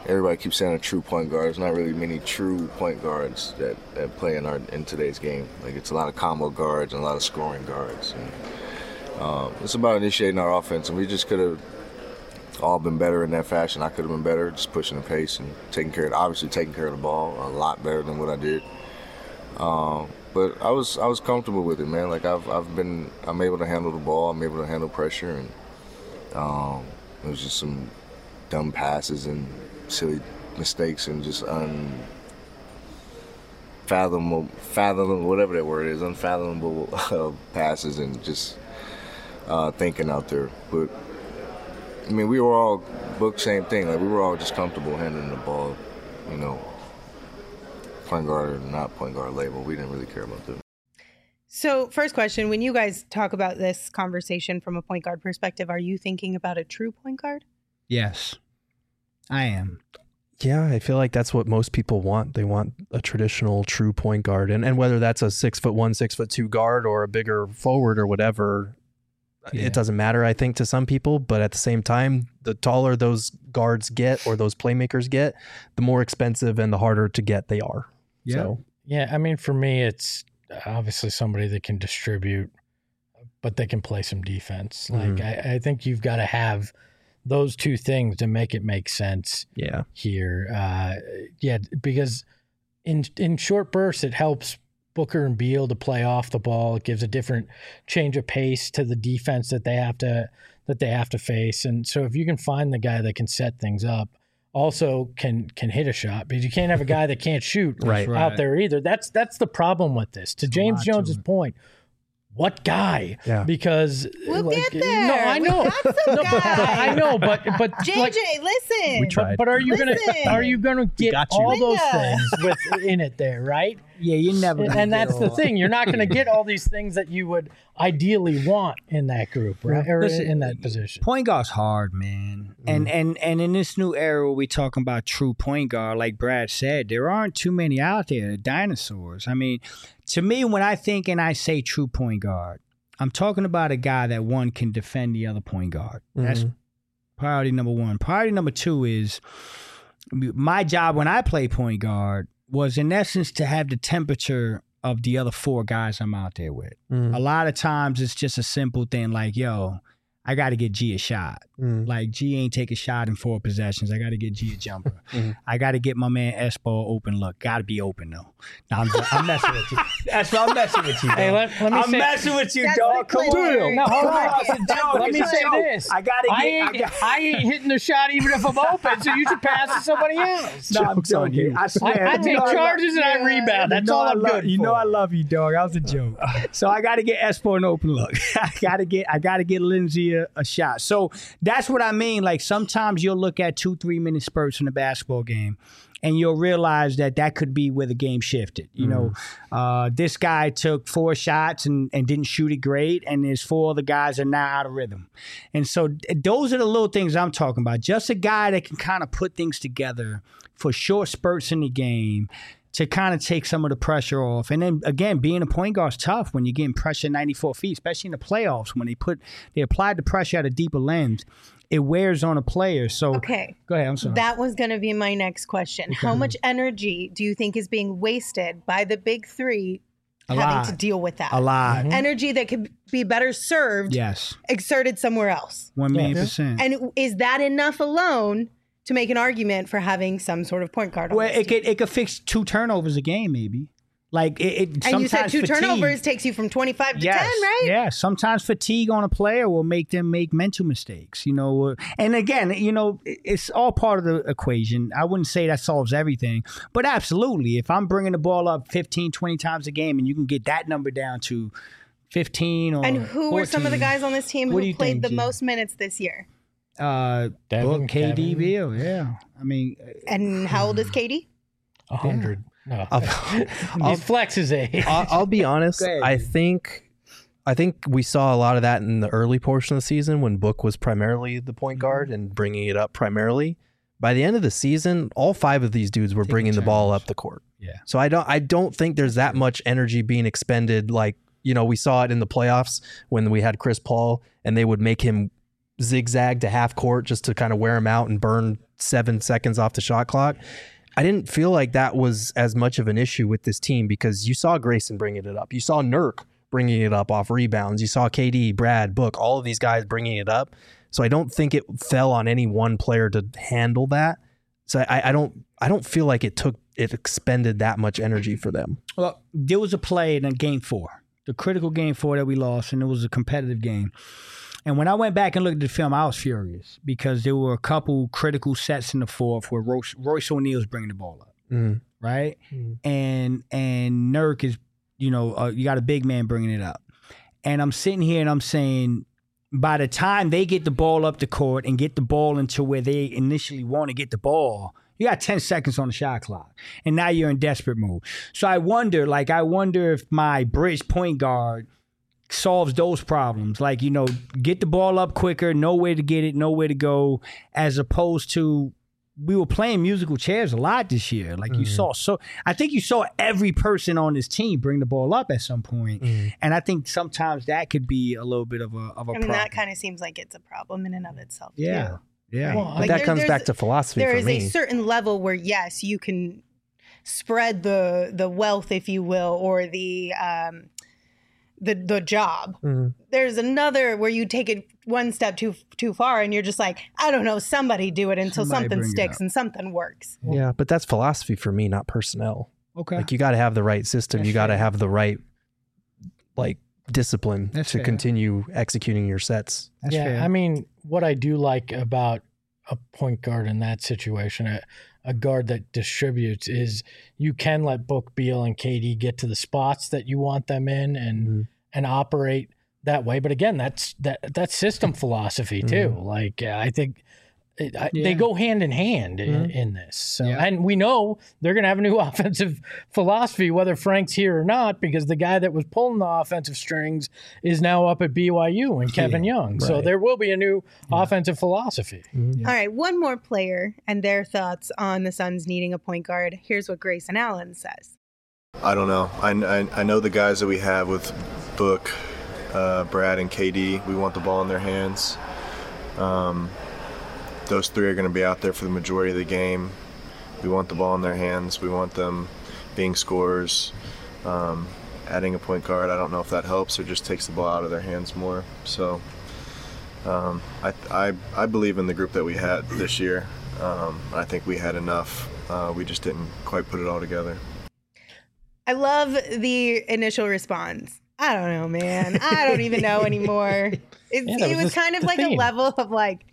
everybody keeps saying a true point guard. There's not really many true point guards that, that play in our in today's game. Like it's a lot of combo guards and a lot of scoring guards. And, um, it's about initiating our offense, and we just could have all been better in that fashion. I could have been better, just pushing the pace and taking care of, obviously taking care of the ball a lot better than what I did. Um, but I was I was comfortable with it, man. Like I've I've been I'm able to handle the ball. I'm able to handle pressure, and um, it was just some dumb passes and silly mistakes and just unfathomable, fathomable, whatever that word is, unfathomable uh, passes and just uh, thinking out there. But I mean, we were all booked same thing. Like we were all just comfortable handling the ball, you know. Point guard or not point guard label, we didn't really care about that. So first question, when you guys talk about this conversation from a point guard perspective, are you thinking about a true point guard? Yes, I am. Yeah, I feel like that's what most people want. They want a traditional true point guard. And and whether that's a six foot one, six foot two guard or a bigger forward or whatever, yeah. It doesn't matter, I think, to some people. But at the same time, the taller those guards get or those playmakers get, the more expensive and the harder to get they are. Yeah. So. Yeah. I mean, for me, it's obviously somebody that can distribute, but they can play some defense. Like, mm-hmm. I, I think you've got to have those two things to make it make sense. Yeah. Here. Uh, yeah. Because in, in short bursts, it helps Booker and Beal to play off the ball. It gives a different change of pace to the defense that they have to, that they have to face. And so if you can find the guy that can set things up, also can can hit a shot, because you can't have a guy that can't shoot right. out there either. That's that's the problem with this. To James Jones's point, what guy? Yeah. Because we'll like, get there. No, I know. We got some no, but, but I know, but but J J, like, listen. We tried. But, but are you listen. gonna are you gonna get all those Linda. things with in it there, right? Yeah, you never. And, and that's the thing. You're not going to get all these things that you would ideally want in that group, right? Or Listen, in that position. Point guard's hard, man. Mm. And and and in this new era, where we talking about true point guard, like Brad said, there aren't too many out there. Dinosaurs. I mean, to me, when I think and I say true point guard, I'm talking about a guy that one can defend the other point guard. Mm-hmm. That's priority number one. Priority number two is my job when I play point guard was in essence to have the temperature of the other four guys I'm out there with. Mm. A lot of times it's just a simple thing like, yo, I got to get G a shot. Mm. Like, G ain't take a shot in four possessions. I got to get G a jumper. mm. I got to get my man Espo open look. Got to be open, though. No, I'm, I'm messing with you. That's what I'm messing with you, dog. Hey, let, let me I'm say, messing with you, That's dog. Come on. No, hold on. Joke. Let me say this. I got to get... I ain't, I, got, I ain't hitting the shot even if I'm open, so you should pass to somebody else. No, I'm joking. I swear. I, I take charges and I rebound. That's you know all I'm love, good You for. know I love you, dog. That was a joke. So I got to get Espo an open look. I got to get I got to get Lindsay a, a shot. So that's what I mean. Like, sometimes you'll look at two, three minute spurts in a basketball game, and you'll realize that that could be where the game shifted. You mm. know, uh, this guy took four shots and, and didn't shoot it great, and there's four other guys that are now out of rhythm. And so those are the little things I'm talking about. Just a guy that can kind of put things together for short spurts in the game to kind of take some of the pressure off. And then, again, being a point guard is tough when you're getting pressure ninety-four feet, especially in the playoffs when they put they applied the pressure at a deeper lens. It wears on a player. So okay, go ahead. I'm sorry. That was going to be my next question. Okay. How much energy do you think is being wasted by the big three a having lot. to deal with that? A lot. Mm-hmm. Energy that could be better served, yes, exerted somewhere else. One million percent. And is that enough alone to make an argument for having some sort of point guard on well, this it team? could it could fix two turnovers a game, maybe. Like it, it and you said two fatigue, turnovers takes you from twenty-five to yes, ten, right? Yeah. Sometimes fatigue on a player will make them make mental mistakes, you know. And again, you know, it's all part of the equation. I wouldn't say that solves everything, but absolutely. If I'm bringing the ball up fifteen, twenty times a game and you can get that number down to fifteen or And who fourteen, were some of the guys on this team who played think, the G? most minutes this year? Uh, Devin, Book, K D, Kevin. Beal, yeah. I mean, And how old is K D? A hundred. No, I'll, he flexes age. I'll, I'll be honest. ahead, I dude. think, I think we saw a lot of that in the early portion of the season when Book was primarily the point guard and bringing it up primarily. By the end of the season, all five of these dudes were Taking bringing the ball turns. up the court. Yeah. So I don't, I don't think there's that much energy being expended. Like, you know, we saw it in the playoffs when we had Chris Paul and they would make him zigzag to half court just to kind of wear him out and burn seven seconds off the shot clock. I didn't feel like that was as much of an issue with this team because you saw Grayson bringing it up. You saw Nurk bringing it up off rebounds. You saw K D, Brad, Book, all of these guys bringing it up. So I don't think it fell on any one player to handle that. So I, I don't I don't feel like it took it expended that much energy for them. Well, there was a play in game four, the critical game four that we lost, and it was a competitive game. And when I went back and looked at the film, I was furious because there were a couple critical sets in the fourth where Royce, Royce O'Neal's bringing the ball up, mm. right? Mm. And and Nurk is, you know, uh, you got a big man bringing it up. And I'm sitting here and I'm saying, by the time they get the ball up the court and get the ball into where they initially want to get the ball, you got ten seconds on the shot clock. And now you're in desperate mode. So I wonder, like, I wonder if my bridge point guard solves those problems. Like, you know, get the ball up quicker, know where to get it, know where to go, as opposed to we were playing musical chairs a lot this year. Like, mm-hmm. you saw, so I think you saw every person on this team bring the ball up at some point. Mm-hmm. And I think sometimes that could be a little bit of a of a I mean, problem. that kind of seems like it's a problem in and of itself, yeah. too. Yeah. Well, like that there, comes back to philosophy There for is me. a certain level where, yes, you can spread the the wealth, if you will, or the um, the the job. Mm-hmm. There's another where you take it one step too too far, and you're just like, I don't know, somebody do it until Somebody something bring it sticks up. and something works. Yeah, but that's philosophy for me, not personnel. Okay. Like, you got to have the right system. That's you got to fair. have the right, like, discipline That's to fair. continue executing your sets. That's yeah, fair. I mean, what I do like about a point guard in that situation, a, a guard that distributes, is you can let Book, Beal, and K D get to the spots that you want them in and Mm-hmm. and operate that way. But again, that's that that's system philosophy too. Mm-hmm. Like, uh, I think it, I, Yeah. they go hand in hand in, Mhm. in this. So, Yeah. and we know they're going to have a new offensive philosophy, whether Frank's here or not, because the guy that was pulling the offensive strings is now up at B Y U and Kevin Yeah, Young. So right. there will be a new offensive philosophy. Mm-hmm. All right, one more player and their thoughts on the Suns needing a point guard. Here's what Grayson Allen says. I don't know. I, I, I know the guys that we have with Book, uh, Brad, and K D. We want the ball in their hands. Um, those three are going to be out there for the majority of the game. We want the ball in their hands. We want them being scorers. Um, adding a point guard, I don't know if that helps or just takes the ball out of their hands more. So um, I, I, I believe in the group that we had this year. Um, I think we had enough. Uh, we just didn't quite put it all together. I love the initial response. I don't know, man. I don't even know anymore. It's, Yeah, that it was was the- kind of the like a theme. level of like,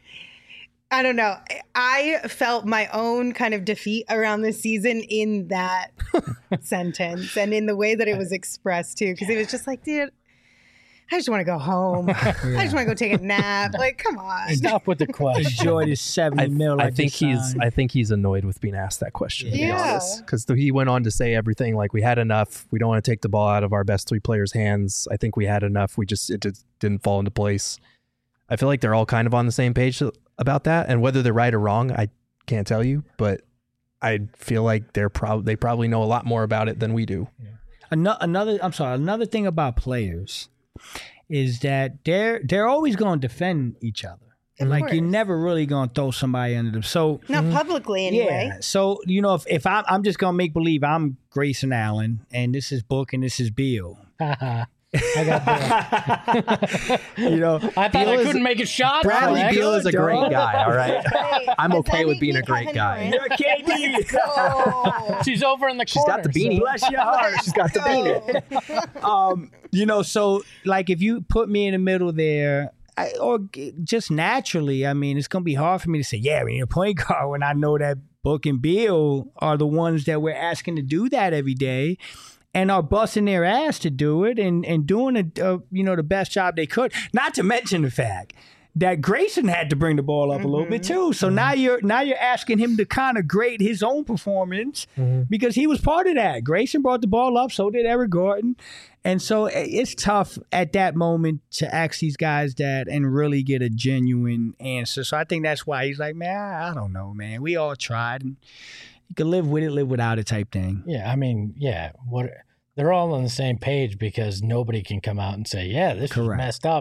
I don't know. I felt my own kind of defeat around this season in that sentence and in the way that it was expressed too. Because it was just like, dude, I just want to go home. I just want to go take a nap. Like, come on. Stop with the question. Enjoy this seventy I, mil. I I think just he's signed. I think he's annoyed with being asked that question, to be Yeah. honest. Because he went on to say everything like, we had enough. We don't want to take the ball out of our best three players' hands. I think we had enough. We just it just didn't fall into place. I feel like they're all kind of on the same page about that. And whether they're right or wrong, I can't tell you. But I feel like they're probably they probably know a lot more about it than we do. Ano- Another, I'm sorry. Another thing about players is that they're they're always going to defend each other. Of Like, you're course. never really going to throw somebody under them. So Not publicly anyway. yeah. So you know, if if I'm I'm just gonna make believe I'm Grayson Allen and this is Book and this is Beal. I got Bill. You know, I thought Beal I is- couldn't make a shot. Bradley Correct. Beal is a great dog. guy, all right? Hey, I'm does okay that with make being me a great Kevin guy. Durant? You're K D. Go. She's over in the She's corner. got the beanie. so- Bless your heart. She's got the beanie. um, you know, so like if you put me in the middle there, I, or g- just naturally, I mean, it's gonna be hard for me to say, yeah, we need a point guard when I know that Book and Beal are the ones that we're asking to do that every day, and are busting their ass to do it and and doing a, uh, you know the best job they could. Not to mention the fact that Grayson had to bring the ball up a little bit too. So now you're now you're asking him to kind of grade his own performance because he was part of that. Grayson brought the ball up, so did Eric Gordon. And so it's tough at that moment to ask these guys that and really get a genuine answer. So I think that's why he's like, man, I I don't know, man. We all tried. And you can live with it, live without it type thing. Yeah, I mean, yeah, what they're all on the same page because nobody can come out and say, yeah, this was Correct. messed up.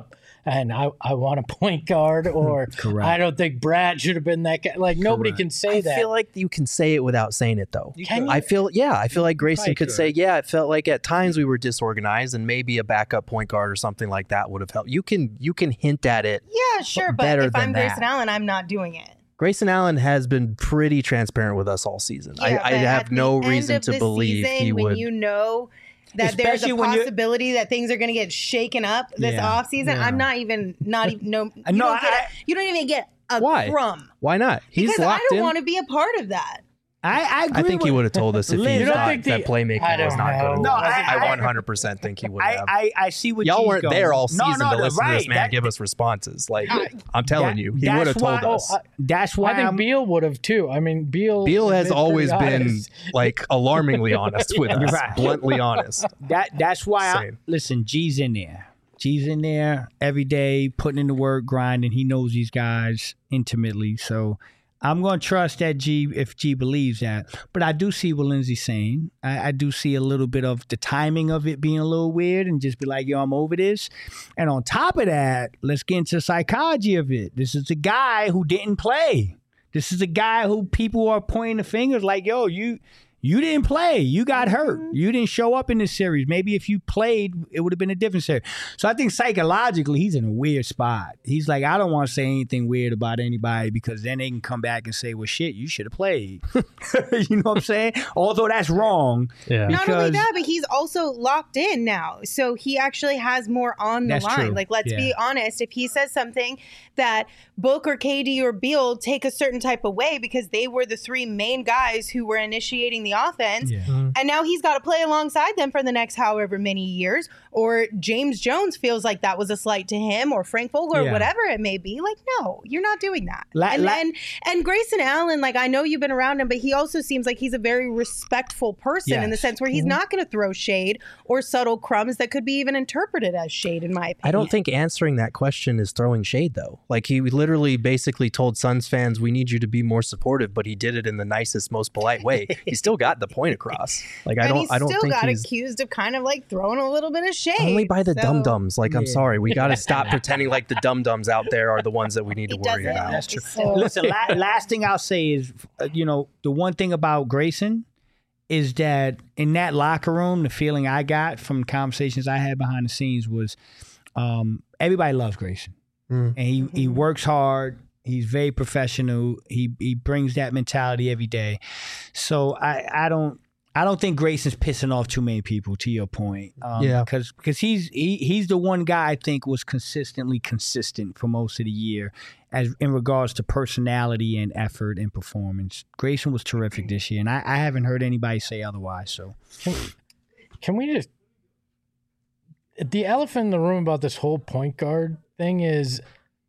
and I, I want a point guard, or Correct. I don't think Brad should have been that guy. Like, nobody Correct. can say I that. feel like you can say it without saying it, though. Can you? I feel, yeah, I feel like Grayson Probably could could. say, yeah, it felt like at times we were disorganized, and maybe a backup point guard or something like that would have helped. You can, you can hint at it. Yeah, sure, but better if I'm than that. Grayson Allen, I'm not doing it. Grayson Allen has been pretty transparent with us all season. Yeah, I, I but at have the no end reason of to the believe season, he when would. you know that Especially there's a when you're- possibility that things are going to get shaken up this Yeah, offseason, yeah. I'm not even, not even, no, you, No, don't, get I- a, you don't even get a Why? crumb. Why not? He's Because I locked don't in. want to be a part of that. I, I agree I think with, he would have told us if Liz, he you don't thought think the- that playmaking I was don't not know. good. No, I, I- I- one hundred percent think he would I, have. I, I see what Y'all G's weren't going. there all No, season no, to no, listen to this right. man That- give us responses. Like, I'm telling that- you, he that's would have told why- us. Oh, I- That's why I think I'm. Beal would have too. I mean, Beal. Beal has been always pretty been honest. like alarmingly honest with us, Right. bluntly honest. That that's why I, Same. listen, G's in there. G's in there every day, putting in the work, grinding. He knows these guys intimately. So I'm going to trust that G if G believes that. But I do see what Lindsay's saying. I, I do see a little bit of the timing of it being a little weird and just be like, yo, I'm over this. And on top of that, let's get into the psychology of it. This is a guy who didn't play. This is a guy who people are pointing the fingers like, yo, you you didn't play. You got hurt. You didn't show up in this series. Maybe if you played, it would have been a different series. So I think psychologically, he's in a weird spot. He's like, I don't want to say anything weird about anybody because then they can come back and say, well, shit, you should have played. You know what I'm saying? Although that's wrong. Yeah. Not only Because- that, but he's also locked in now. So he actually has more on the That's line. true. Like, let's Yeah. be honest. If he says something that Book or K D or Beal take a certain type of way because they were the three main guys who were initiating the offense, Yeah. and now he's got to play alongside them for the next however many years, or James Jones feels like that was a slight to him, or Frank Vogel, or Yeah. whatever it may be. Like, no, you're not doing that. La- and, la- and and Grayson Allen, like, I know you've been around him, but he also seems like he's a very respectful person in the Yes. sense where he's not going to throw shade or subtle crumbs that could be even interpreted as shade, in my opinion. I don't think answering that question is throwing shade, though. Like, he literally basically told Suns fans, we need you to be more supportive, but he did it in the nicest, most polite way. He still got the point across. Like, I and don't, he's I don't still think got he's accused of kind of like throwing a little bit of shade. only by the So- dum dums. Like, I'm Yeah. sorry, we got to stop pretending like the dum dums out there are the ones that we need to He worry doesn't. about. That's true. So- Listen, la- last thing I'll say is, uh, you know, the one thing about Grayson is that in that locker room, the feeling I got from conversations I had behind the scenes was um, everybody loves Grayson. Mm. And he, he works hard. He's very professional. He he brings that mentality every day. So I, I don't I don't think Grayson's pissing off too many people. To your point, um, Yeah. because because he's he, he's the one guy I think was consistently consistent for most of the year, as in regards to personality and effort and performance. Grayson was terrific this year, and I, I haven't heard anybody say otherwise. So Can, can we just the elephant in the room about this whole point guard thing is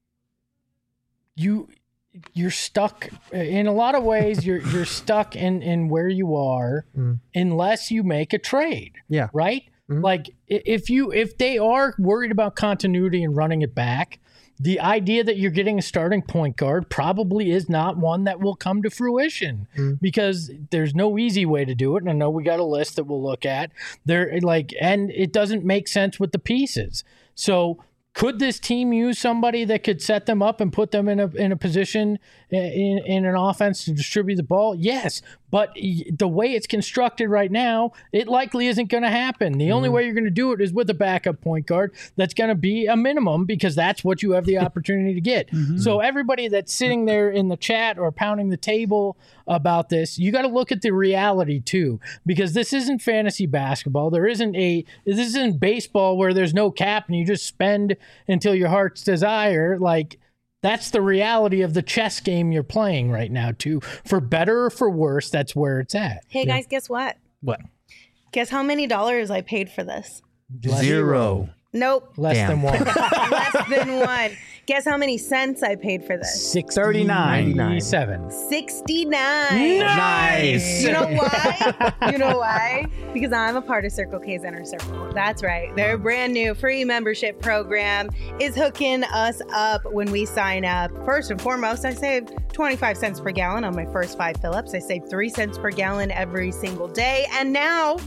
you you're stuck in a lot of ways you're you're stuck in in where you are Mm. unless you make a trade. Yeah. Right? Mhm. Like i- if you if they are worried about continuity and running it back, the idea that you're getting a starting point guard probably is not one that will come to fruition Mm. because there's no easy way to do it. And I know we got a list that we'll look at there, like, and it doesn't make sense with the pieces. So could this team use somebody that could set them up and put them in a in a position in, in an offense to distribute the ball? Yes, but the way it's constructed right now, it likely isn't going to happen. The only way you're going to do it is with a backup point guard that's going to be a minimum because that's what you have the opportunity to get. So everybody that's sitting there in the chat or pounding the table about this, you got to look at the reality too, because this isn't fantasy basketball. There isn't a this isn't baseball where there's no cap and you just spend until your heart's desire. Like, that's the reality of the chess game you're playing right now too. For better or for worse, that's where it's at. Hey, guys, guess what? What? Guess how many dollars I paid for this? Zero. Nope. Less Damn. than one. Less than one. Guess how many cents I paid for this? Six thirty-nine. ninety-seven. sixty-nine. Nice. You know why? You know why? Because I'm a part of Circle K's Inner Circle. That's right. Their brand new free membership program is hooking us up when we sign up. First and foremost, I save twenty-five cents per gallon on my first five fill-ups. I save three cents per gallon every single day. And now,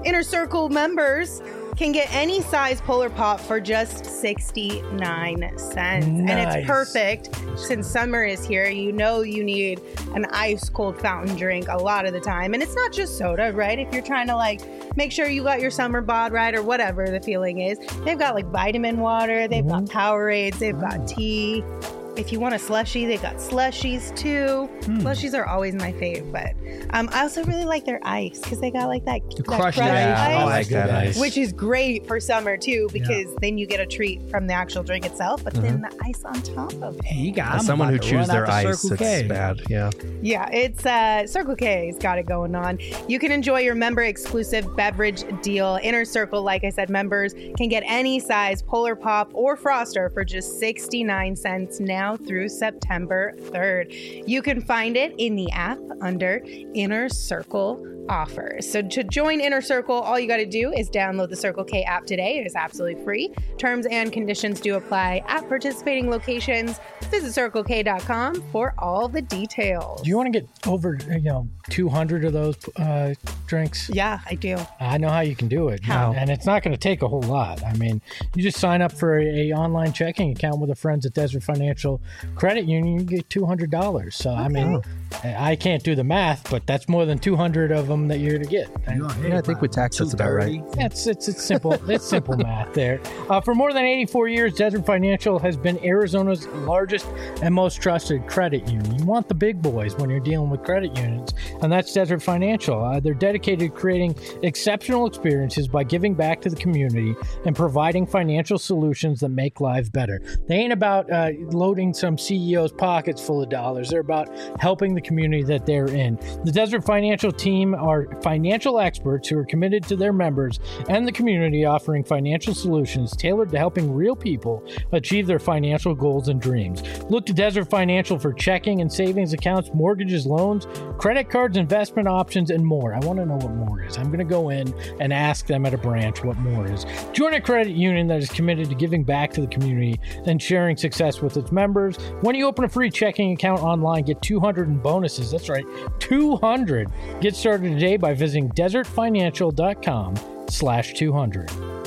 Inner Circle members can get any size Polar Pop for just sixty-nine cents. And Nice. it's perfect since summer is here. You know you need an ice cold fountain drink a lot of the time. And it's not just soda, right? If you're trying to like make sure you got your summer bod right or whatever the feeling is. They've got like vitamin water, they've got Powerades, they've got tea. If you want a slushie, they got slushies too. Hmm. Slushies are always my fave, but um, I also really like their ice because they got like that, that crushed crushed ice. ice, I like that ice. which is great for summer too because then you get a treat from the actual drink itself, but then the ice on top of it. Hey, you got As I'm someone who about to chews run their out to ice, Circle it's K. bad. Yeah. Yeah, it's uh, Circle K's got it going on. You can enjoy your member exclusive beverage deal. Inner Circle, like I said, members can get any size Polar Pop or Froster for just sixty-nine cents now through September third. You can find it in the app under Inner Circle offers. So to join Inner Circle, all you got to do is download the Circle K app today. It is absolutely free. Terms and conditions do apply at participating locations. Visit circle k dot com for all the details. Do you want to get over, you know, two hundred of those uh, drinks? Yeah, I do. I know how you can do it. How? And it's not going to take a whole lot. I mean, you just sign up for a, a online checking account with the friends at Desert Financial Credit Union, you get two hundred dollars. So, I mean, I can't do the math, but that's more than two hundred of them that you're going to get. Yeah, I think with tax, that's about right. It's it's it's simple. It's simple math there. Uh, for more than eighty-four years, Desert Financial has been Arizona's largest and most trusted credit union. You want the big boys when you're dealing with credit unions, and that's Desert Financial. Uh, they're dedicated to creating exceptional experiences by giving back to the community and providing financial solutions that make lives better. They ain't about uh, loading some C E O's pockets full of dollars. They're about helping the community that they're in. The Desert Financial team are financial experts who are committed to their members and the community, offering financial solutions tailored to helping real people achieve their financial goals and dreams. Look to Desert Financial for checking and savings accounts, mortgages, loans, credit cards, investment options, and more. I want to know what more is. I'm going to go in and ask them at a branch what more is. Join a credit union that is committed to giving back to the community and sharing success with its members. When you open a free checking account online, get two hundred in bonuses. That's right, two hundred. Get started today by visiting desertfinancial.com slash 200.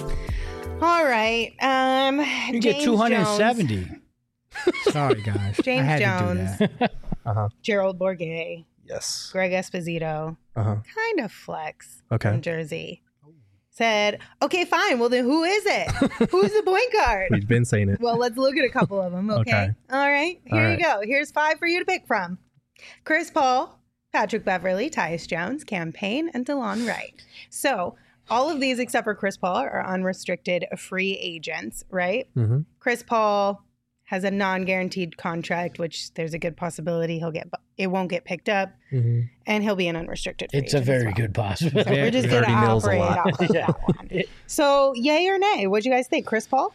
All right. Um, You James get two hundred seventy. Jones, Sorry, guys. I James had Jones, to do that. Uh-huh. Gerald Bourguet, Yes. Greg Esposito, Uh-huh. kind of flex Okay. from Jersey, said, okay, fine. Well, then who is it? Who's the point guard? We've been saying it. Well, let's look at a couple of them, okay? Okay. All right. Here All you go. Here's five for you to pick from. Chris Paul, Patrick Beverly, Tyus Jones, Cam Payne, and DeLon Wright. So all of these, except for Chris Paul, are unrestricted free agents, right? Mm-hmm. Chris Paul has a non-guaranteed contract, which there's a good possibility he'll get, it won't get picked up, Mm-hmm. and he'll be an unrestricted free It's a agent as very well. good possibility. So we're just going to Thirty mils a operate lot. off of that one. So, yay or nay? What'd you guys think? Chris Paul?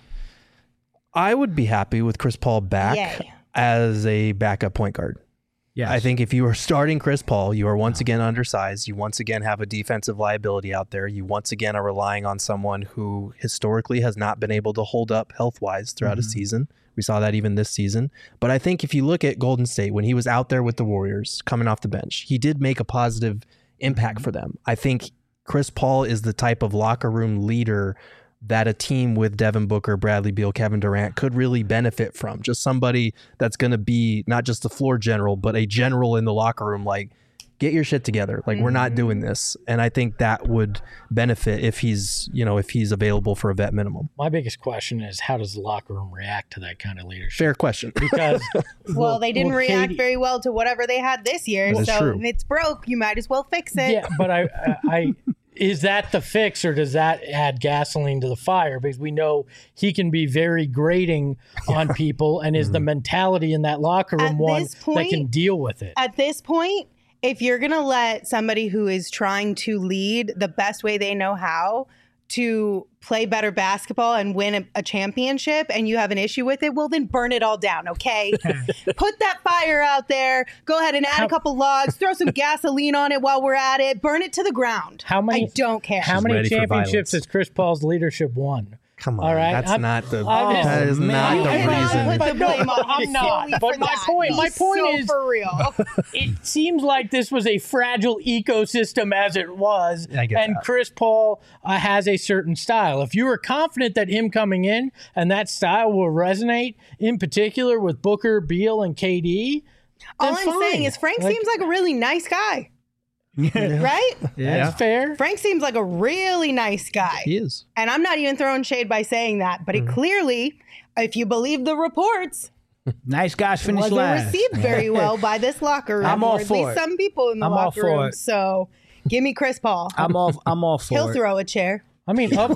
I would be happy with Chris Paul back Yay. as a backup point guard. Yes. I think if you are starting Chris Paul, you are once again undersized. You once again have a defensive liability out there. You once again are relying on someone who historically has not been able to hold up health-wise throughout a season. We saw that even this season. But I think if you look at Golden State, when he was out there with the Warriors coming off the bench, he did make a positive impact for them. I think Chris Paul is the type of locker room leader that a team with Devin Booker, Bradley Beal, Kevin Durant could really benefit from. Just somebody that's going to be not just the floor general, but a general in the locker room. Like, get your shit together. Like, we're not doing this. And I think that would benefit if he's, you know, if he's available for a vet minimum. My biggest question is, how does the locker room react to that kind of leadership? Fair question. Because Well, they didn't well, react Katie- very well to whatever they had this year. That is So true. if it's broke, you might as well fix it. Yeah, but I, I, I is that the fix, or does that add gasoline to the fire? Because we know he can be very grating on people, and is the mentality in that locker room At one this that point- can deal with it? At this point, if you're going to let somebody who is trying to lead the best way they know how to play better basketball and win a, a championship, and you have an issue with it, well, then burn it all down, okay? Put that fire out there. Go ahead and add How- a couple logs. Throw some gasoline on it while we're at it. Burn it to the ground. How many? I don't care. How She's many ready for championships violence. has Chris Paul's leadership won? Come on, All right, that's I'm- not the. I'm just- that is man. not the I'm not- reason. Put the But no, blame on I'm him not. solely But for my that. point- my He's point so is- for real. It seems like this was a fragile ecosystem as it was, I get and that. Chris Paul uh, has a certain style. If you were confident that him coming in and that style will resonate, in particular with Booker, Beal, and K D, All then I'm fine. saying is Frank Like, seems like a really nice guy, right? that's fair. Frank seems like a really nice guy. He is. And I'm not even throwing shade by saying that, but it clearly, if you believe the reports, Nice guys finish wasn't last. received very well by this locker room. I'm all or at for least it. some people in the I'm all locker for room. it. So give me Chris Paul. I'm all. I'm all for He'll it. throw a chair. I mean, of,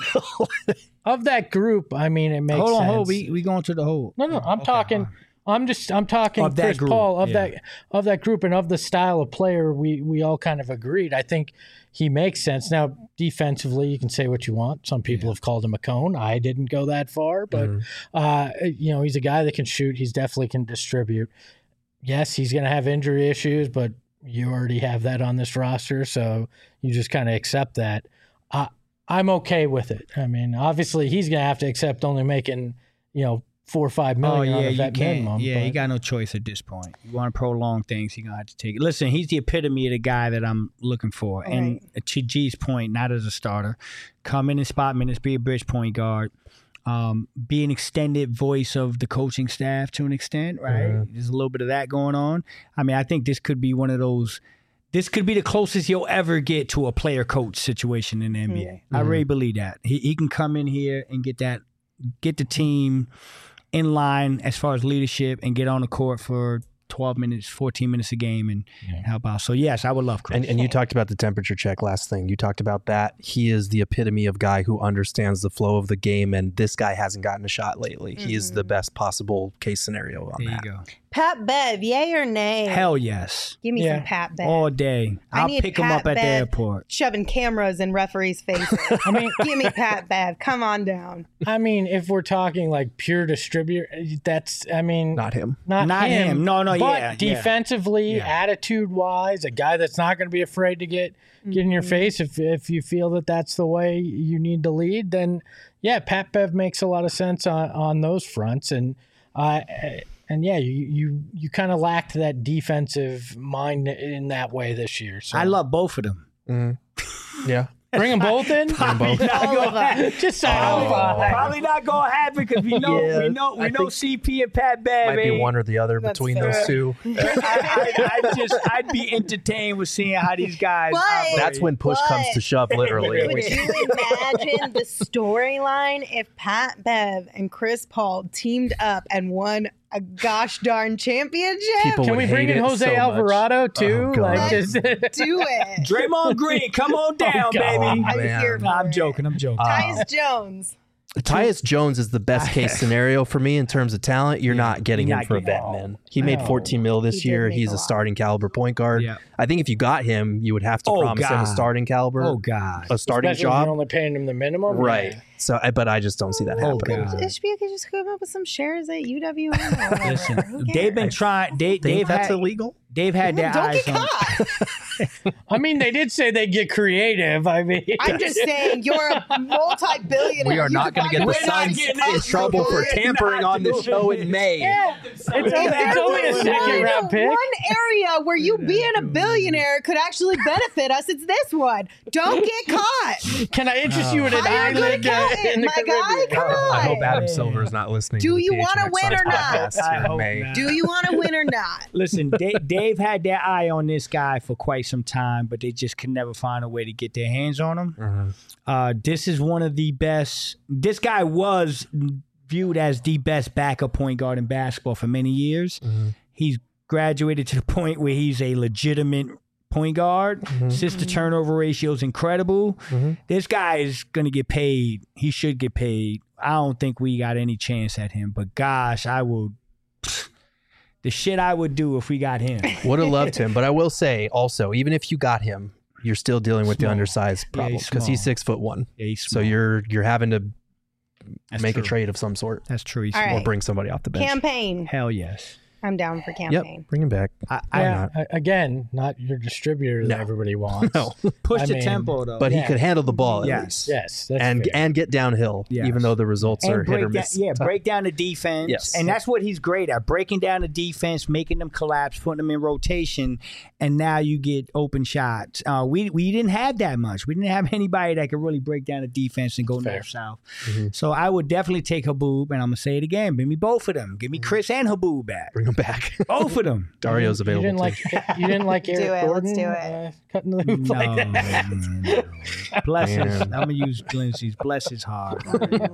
of that group, I mean, it makes Hold on, sense. hold. We we going to the hold. No, no, I'm talking. I'm just. I'm talking Of that Chris group, Paul of yeah. that of that group and of the style of player. We we all kind of agreed. I think he makes sense. Now, defensively, you can say what you want. Some people have called him a cone. I didn't go that far, but uh, you know, he's a guy that can shoot. He's definitely can distribute. Yes, he's going to have injury issues, but you already have that on this roster, so you just kind of accept that. Uh, I'm okay with it. I mean, obviously, he's going to have to accept only making, you know, four or five Oh million yeah, on a you vet can't. minimum. Yeah, but- you got no choice at this point. You want to prolong things, you're gonna have to take it. Listen, he's the epitome of the guy that I'm looking for. And to G's point, not as a starter, come in and spot minutes, be a bridge point guard, um, be an extended voice of the coaching staff to an extent. Right, Mhm. there's a little bit of that going on. I mean, I think this could be one of those. This could be the closest you'll ever get to a player coach situation in the N B A. I Mhm. really believe that he he can come in here and get that, get the team in line as far as leadership and get on the court for twelve minutes, fourteen minutes a game and help out. So, yes, I would love Chris. And, and you talked about the temperature check last thing. You talked about that. He is the epitome of guy who understands the flow of the game, and this guy hasn't gotten a shot lately. He is the best possible case scenario on there that. you go. Pat Bev, yay or nay? Hell yes. Give me Yeah. some Pat Bev. All day. I I'll need pick him Pat up at the Bev airport. shoving cameras in referees' faces. I mean, Give me Pat Bev. Come on down. I mean, if we're talking like pure distributor, that's. I mean, Not him. not, Not him. No, no, but yeah, yeah. defensively, Yeah. attitude-wise, a guy that's not going to be afraid to get get in your face. If if you feel that that's the way you need to lead, then yeah, Pat Bev makes a lot of sense on on those fronts. And uh, and yeah, you you you kind of lacked that defensive mind in that way this year. So I love both of them. Mm-hmm. Yeah. bring them both in. Probably not All gonna of them. happen. Just say Probably, oh, probably not gonna happen because we know Yeah, we know we I know think- C P and Pat Bev. Might be ain't- one or the other That's between fair. those two. I, I, I'd just I'd be entertained with seeing how these guys. But- operate. That's when push What? comes to shove, literally. Would you imagine the storyline if Pat Bev and Chris Paul teamed up and won a gosh darn championship? People Can would we bring hate in it Jose so much. Alvarado too? Oh, God. like Let's just do it. Draymond Green, come on down, God. baby. I'm man. here for Nah, I'm it. joking. I'm joking. Tyus Jones. Tyus Jones is the best case scenario for me in terms of talent. You're not getting You're him not for a getting vet him. man. He made No. fourteen mil He this did year. make He's a a lot. starting caliber point guard. Yeah. I think if you got him, you would have to Oh, promise him a God. starting caliber, Oh God. a starting especially if job. you're only paying him the minimum, Right. yeah. So, I- but I just don't see that Oh, happening. God. Ishbia could just come up with some shares at U W M or whatever. Listen, Who they've been cares? trying. They, Think they've that's had. illegal? They've had their Don't eyes get on. caught. I mean, they did say they get creative. I mean, I'm just saying, you're a multi-billionaire. We are You not can going to find get the ways Suns to in get trouble for caught. tampering on the show in May. yeah, it's only, If it's there only a was second round one, pick. one area where you being a billionaire could actually benefit us, it's this one. Don't get caught. Can I interest you in an Hire a good island uh, accountant, in the my guy. Caribbean? Come on. I hope Adam Silver is not listening. Do to the you P H wanna N X win or Suns not? podcast I here in hope May. not. Do you want to win or not? Listen, they, they've had their eye on this guy for quite some time, but they just can never find a way to get their hands on him. Mhm. Uh, this is one of the best. This guy was viewed as the best backup point guard in basketball for many years. Mhm. He's graduated to the point where he's a legitimate point guard. Mhm. Assist to turnover ratio is incredible. Mhm. This guy is going to get paid. He should get paid. I don't think we got any chance at him, but gosh, I will. The shit I would do if we got him. Would have loved him, but I will say also, even if you got him, you're still dealing with the Small. undersized Yeah, problem he's because he's small. six foot one. Yeah, he's So small. you're you're having to That's make true. a trade of some sort That's true. He's All small. or right. bring somebody off the bench. Campaign. Hell yes. I'm down for campaign. Yep, bring him back. I, Why yeah, not? I- again, not your distributor that No. everybody wants. No. Push I the mean, tempo though. But Yeah. he could handle the ball at Yes. least. Yes, that's and fair. and get downhill, Yes. even though the results are and hit or break down, miss. yeah, break down the defense. Yes. And that's what he's great at, breaking down the defense, making them collapse, putting them in rotation, and now you get open shots. Uh, we we didn't have that much. We didn't have anybody that could really break down the defense and go Fair. north-south. Mm-hmm. So I would definitely take Haboob, and I'm going to say it again. Give me both of them. Give me Chris and Haboob back. Bring him back. Both of them. Dario's You available. didn't too. like you didn't like Do Eric it, let's Gordon do it. Uh, cutting the hoop No, like that. man, no. Bless his. Man. I'm going to use Lindsay's. Bless his heart.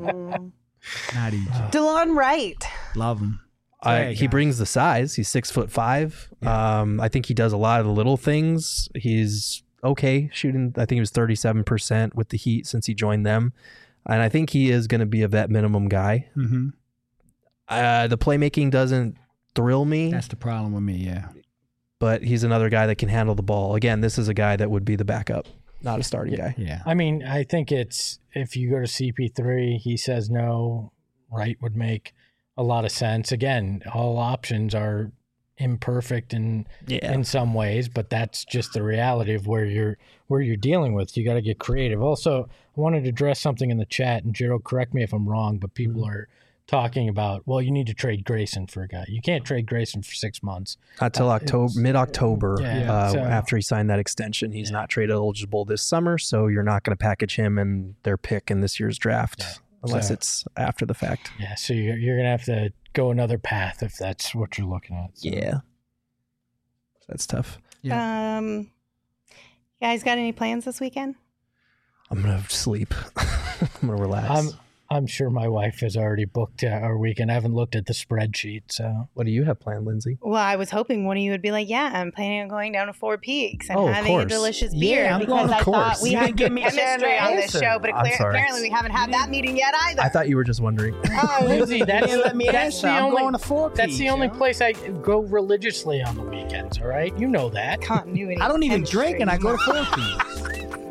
Not easy. DeLon Wright. Love him. Uh, Hey, he guys. brings the size. He's six foot five. Um, I think he does a lot of the little things. He's okay shooting. I think he was thirty-seven percent with the Heat since he joined them, and I think he is going to be a vet minimum guy. Mm-hmm. Uh, the playmaking doesn't thrill me, That's the problem with me, yeah. but he's another guy that can handle the ball. Again, this is a guy that would be the backup, not a starting guy. Yeah. I mean, I think it's if you go to C P three, he says no, Wright would make a lot of sense. Again, all options are imperfect in Yeah. in some ways, but that's just the reality of where you're where you're dealing with. You got to get creative. Also, I wanted to address something in the chat, and Gerald, correct me if I'm wrong, but people Mm-hmm. are talking about, well, you need to trade Grayson for a guy. You can't trade Grayson for six months. Not till Uh, October, it's- mid October. Yeah, uh, so- after he signed that extension, he's not trade eligible this summer, so you're not going to package him and their pick in this year's draft unless So- it's after the fact. Yeah, so you're, you're going to have to go another path if that's what you're looking at. So. Yeah, that's tough. Um, you guys got any plans this weekend? I'm gonna sleep. I'm gonna relax. I'm I'm sure my wife has already booked uh, our weekend. I haven't looked at the spreadsheet, so. What do you have planned, Lindsay? Well, I was hoping one of you would be like, "Yeah, I'm planning on going down to Four Peaks and Oh, of having a course. delicious Yeah, beer." I'm because going, of I course. thought we You had didn't give me a chemistry on this answer. show, but I'm clear- sorry. apparently we haven't had that meeting yet either. I thought you were just wondering. Oh, Lindsay, that's, didn't let me that's answer. the I'm only, going to Four that's the Peaks, only yo. place I go religiously on the weekends, all right? You know that. Continuity. I don't even chemistry. drink, and I go to Four Peaks.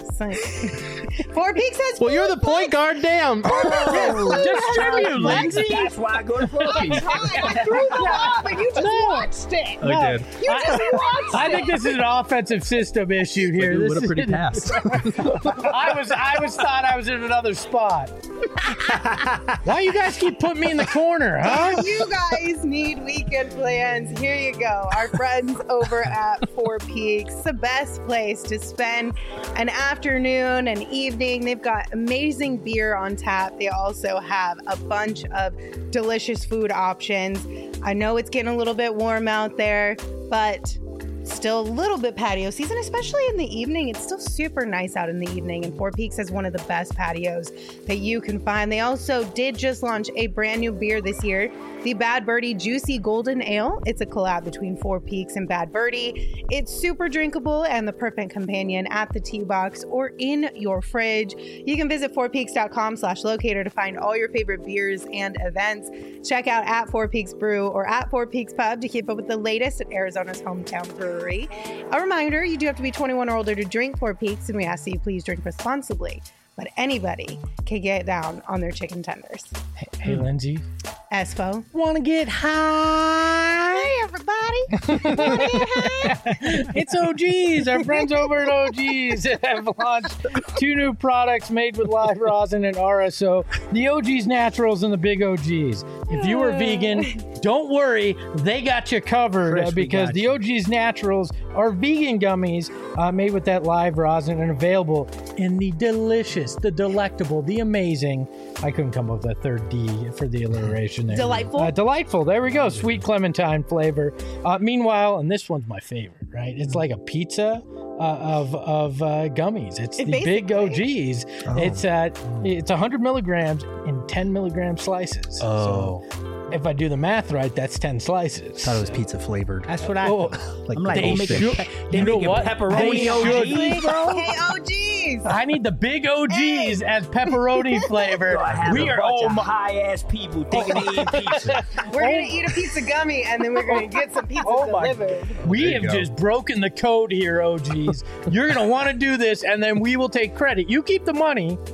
Four Peaks has. Well, you're the point guard. Damn. Distribute, Lindsay. That's why I go to Four I Peaks. tried. I threw them off, and you just watched it. I did. You just watched I it. think this is an offensive system issue here. What This a pretty is- pass. I was I was thought I was in another spot. Why you guys keep putting me in the corner, huh? If you guys need weekend plans, here you go. Our friends over at Four Peaks, the best place to spend an afternoon and evening. They've got amazing beer on tap. They also have a bunch of delicious food options. I know it's getting a little bit warm out there, but still a little bit patio season, especially in the evening. It's still super nice out in the evening, and Four Peaks has one of the best patios that you can find. They also did just launch a brand new beer this year, the Bad Birdie Juicy Golden Ale. It's a collab between Four Peaks and Bad Birdie. It's super drinkable and the perfect companion at the tea box or in your fridge. You can visit fourpeaks.com slash locator to find all your favorite beers and events. Check out at Four Peaks Brew or at Four Peaks Pub to keep up with the latest at Arizona's hometown brewery. A reminder, you do have to be twenty-one or older to drink Four Peaks, and we ask that you please drink responsibly. But anybody can get down on their chicken tenders. Hey, Lindsay. Espo. Want to get high? Hey, everybody. Wanna get high? It's O Gs. Our friends over at O Gs have launched two new products made with live rosin and R S O, the O Gs Naturals and the Big O Gs. If you are vegan, don't worry. They got you covered Chris, uh, we because got the you. O Gs Naturals are vegan gummies uh, made with that live rosin and available in the delicious, the delectable, the amazing. I couldn't come up with a third D for the alliteration there. Delightful? Uh, delightful. There we go. Sweet clementine flavor. Uh, meanwhile, and this one's my favorite, right? It's like a pizza uh, of of uh, gummies. It's It the Big O basically- Gs. It's uh, it's one hundred milligrams in ten milligram slices. Oh. So if I do the math right, that's ten slices. Thought it was pizza flavored. That's what I. Oh, Like I'm like, the they whole make thing. it. Pe- they You know make it what? pepperoni They O should. Gs, bro. Hey, O Gs. I need the Big O Gs as pepperoni flavor. I have We a are bunch oh of my. high ass people thinking they eat pizza. We're going to eat a pizza gummy, and then we're going to get some pizza Oh my- delivered. We have just broken the code here, O Gs. You're going to want to do this, and then we will take credit. You keep the money. Let's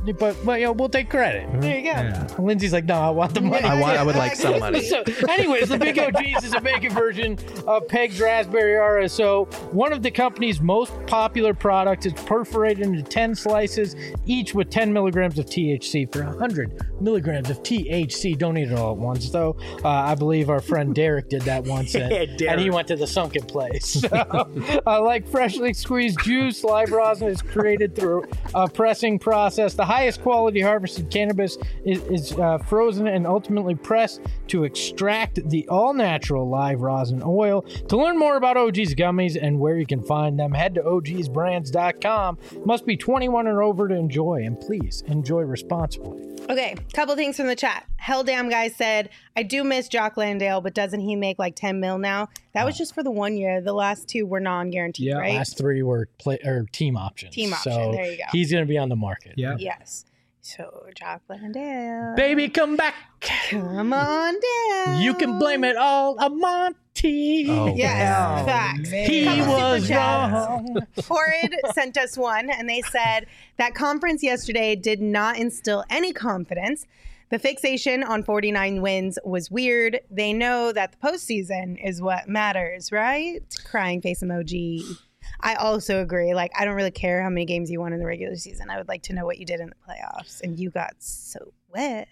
but well, you know, we'll take credit. There you go. Yeah. Lindsay's like, no, I want the money. I want. I would like some money. So, anyways, the Big O G's is a bacon version of Peg's Raspberry Aura. So, one of the company's most popular products is perforated into ten slices, each with ten milligrams of T H C for one hundred milligrams of T H C. Don't eat it all at once, though. Uh, I believe our friend Derek did that once, and, Yeah, and he went to the sunken place. So, uh, like freshly squeezed juice, live rosin is created through a pressing process. The highest quality harvested cannabis is, is uh, frozen and ultimately pressed to extract the all-natural live rosin oil. To learn more about O G's gummies and where you can find them, head to O Gs brands dot com. Must be twenty-one and over to enjoy, and please enjoy responsibly. Okay, couple things from the chat. Hell Damn Guy said, I do miss Jock Landale, but doesn't he make like ten mil now? That was just for the one year. The last two were non-guaranteed, Yeah, right? last three were play or team options. Team option, So there you go. he's going to be on the market. Yeah. Yes. So, Jock Landale. Baby, come back. Come on down. You can blame it all on Monty. Oh, Yes, Oh, facts. man. He Couple was super chats. wrong. Horrid sent us one, and they said that conference yesterday did not instill any confidence. The fixation on forty-nine wins was weird. They know that the postseason is what matters, right? Crying face emoji. I also agree. Like, I don't really care how many games you won in the regular season. I would like to know what you did in the playoffs. And you got so wet.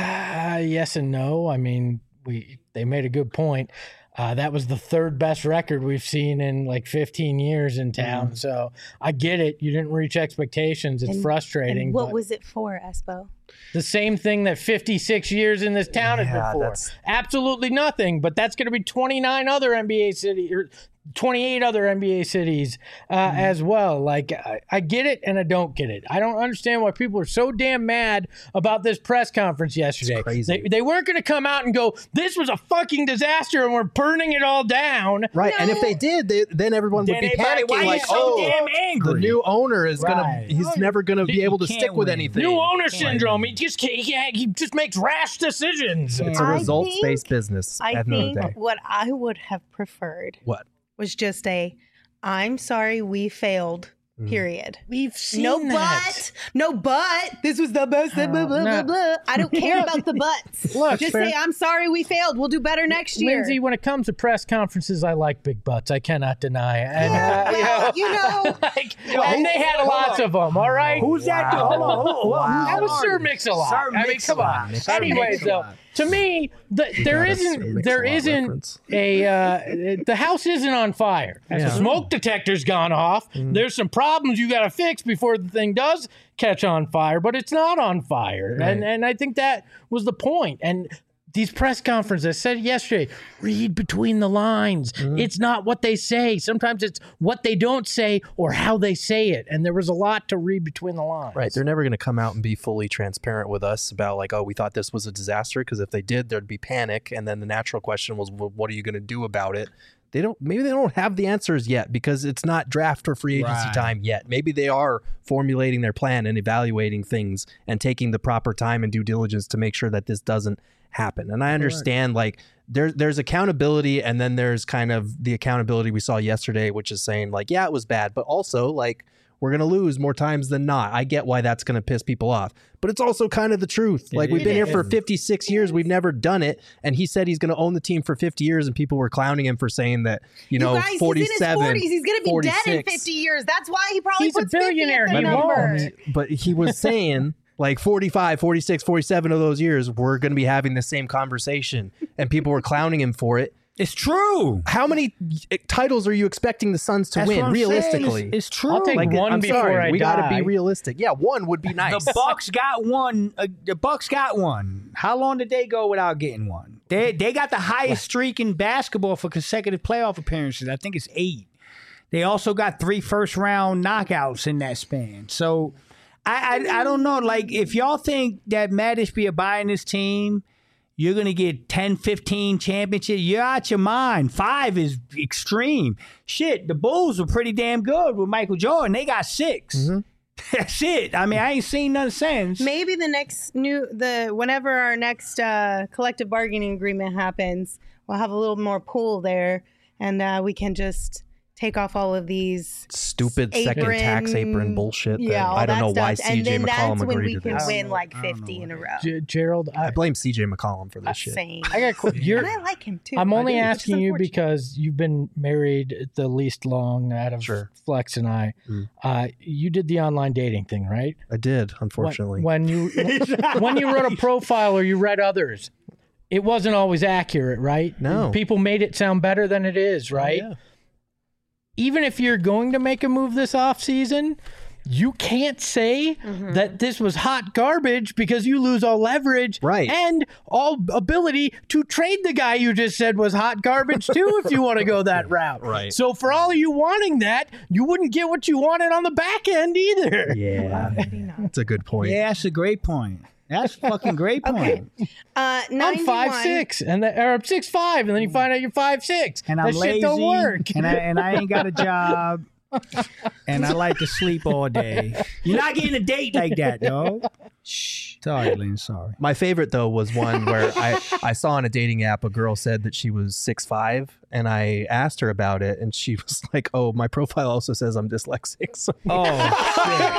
Uh, yes and no. I mean, we they made a good point. Uh, that was the third best record we've seen in like fifteen years in town. Mm. So I get it. You didn't reach expectations. It's And- frustrating. And what but was it for, Espo? the same thing that fifty-six years in this town has Yeah, been for. that's- Absolutely nothing. But that's going to be twenty-nine other N B A cities or twenty-eight other N B A cities uh, Mm-hmm. as well. Like, I, I get it and I don't get it. I don't understand why people are so damn mad about this press conference yesterday. crazy. They, they weren't going to come out and go, this was a fucking disaster and we're burning it all down. Right, and if they did, they, then everyone would Then be everybody, panicking why like, you so "Oh, damn angry?" the new owner is Right. gonna, he's never gonna be You able to can't stick with win. anything." New owner syndrome. He just can't, he, he just makes rash decisions. It's a I results-based business. I at the end think of the day. what I would have preferred What? was just a, I'm sorry we failed, period. We've seen No that. but, no but. This was the best. blah, blah, blah, no. blah. I don't care about the buts. Look, just fair- say, I'm sorry we failed. We'll do better next year. Lindsay, when it comes to press conferences, I like big butts. I cannot deny it. And, uh, well, you know, like, and they had lots of them, all right? Who's that? Hold on, hold on, hold on. That was Sir Mix-a-Lot. Sir I mean, come on. Mix-a-Lot. Sir Anyways, though, Mix-a-Lot. to me, the, there got a Sir isn't, there Mix-a-Lot isn't reference. a, uh, the house isn't on fire. As the smoke detector's gone off, there's some problems you got to fix before the thing does catch on fire, but it's not on fire. And, and I think that was the point. And these press conferences, I said yesterday, read between the lines. It's not what they say. Sometimes it's what they don't say or how they say it. And there was a lot to read between the lines. Right, they're never going to come out and be fully transparent with us about like, oh, we thought this was a disaster, because if they did, there'd be panic, and then the natural question was, well, what are you going to do about it? They don't. Maybe they don't have the answers yet because it's not draft or free agency Right. time yet. Maybe they are formulating their plan and evaluating things and taking the proper time and due diligence to make sure that this doesn't happen. And I understand like there's there's accountability, and then there's kind of the accountability we saw yesterday, which is saying like, yeah, it was bad, but also like, we're going to lose more times than not. I get why that's going to piss people off, but it's also kind of the truth. Like, we've been here for fifty-six years. We've never done it. And he said he's going to own the team for fifty years. And people were clowning him for saying that, you know, you guys, forty-seven, he's in his forties. He's going to be forty-six. dead in fifty years. That's why he probably He's a puts fifty billionaire. at the He number. won't. But he was saying like forty-five, forty-six, forty-seven of those years, we're going to be having the same conversation. And people were clowning him for it. It's true. How many titles are you expecting the Suns to That's win what I'm realistically? saying. It's, it's true. I'll take Like, one I'm before sorry, I we got to die. be realistic. Yeah, one would be nice. The Bucks got one. Uh, the Bucks got one. How long did they go without getting one? They they got the highest streak in basketball for consecutive playoff appearances. I think it's eight. They also got three first round knockouts in that span. So I I, I don't know. Like, if y'all think that Matt Ishbia buying this team, you're going to get ten, fifteen championships, you're out your mind. Five is extreme. Shit, the Bulls were pretty damn good with Michael Jordan. They got six. Mm-hmm. That's it. I mean, I ain't seen nothing since. Maybe the next new the whenever our next uh, collective bargaining agreement happens, we'll have a little more pool there, and uh, we can just take off all of these stupid second tax apron bullshit. Yeah, that all I don't that know why stuff. C J And then McCollum that's when agreed we to can this. win like fifty in a row. G- Gerald, I, I blame C J McCollum for this shit. Same. I got qu- you're, And I like him too. I'm I only do. It's asking just you unfortunate. because you've been married the least long out of Sure. Flex and I. Mm. Uh, you did the online dating thing, right? I did, unfortunately. When, when you when you wrote a profile or you read others, it wasn't always accurate, right? No. People made it sound better than it is, right? Oh, yeah. Even if you're going to make a move this offseason, you can't say Mm-hmm. that this was hot garbage because you lose all leverage Right. and all ability to trade the guy you just said was hot garbage too if you want to go that route. Right. So for all of you wanting that, you wouldn't get what you wanted on the back end either. Yeah, that's a good point. Yeah, that's a great point. That's a fucking great point. Okay. Uh, I'm ninety-one. five six and the, or I'm six five, and then you find out you're five six. And that I'm shit lazy. don't work. And I and I ain't got a job. And I like to sleep all day. You're not getting a date like that, dog. Shh. Sorry, Lynn. Sorry. My favorite though was one where I, I saw on a dating app a girl said that she was six five, and I asked her about it, and she was like, "Oh, my profile also says I'm dyslexic." So Oh shit.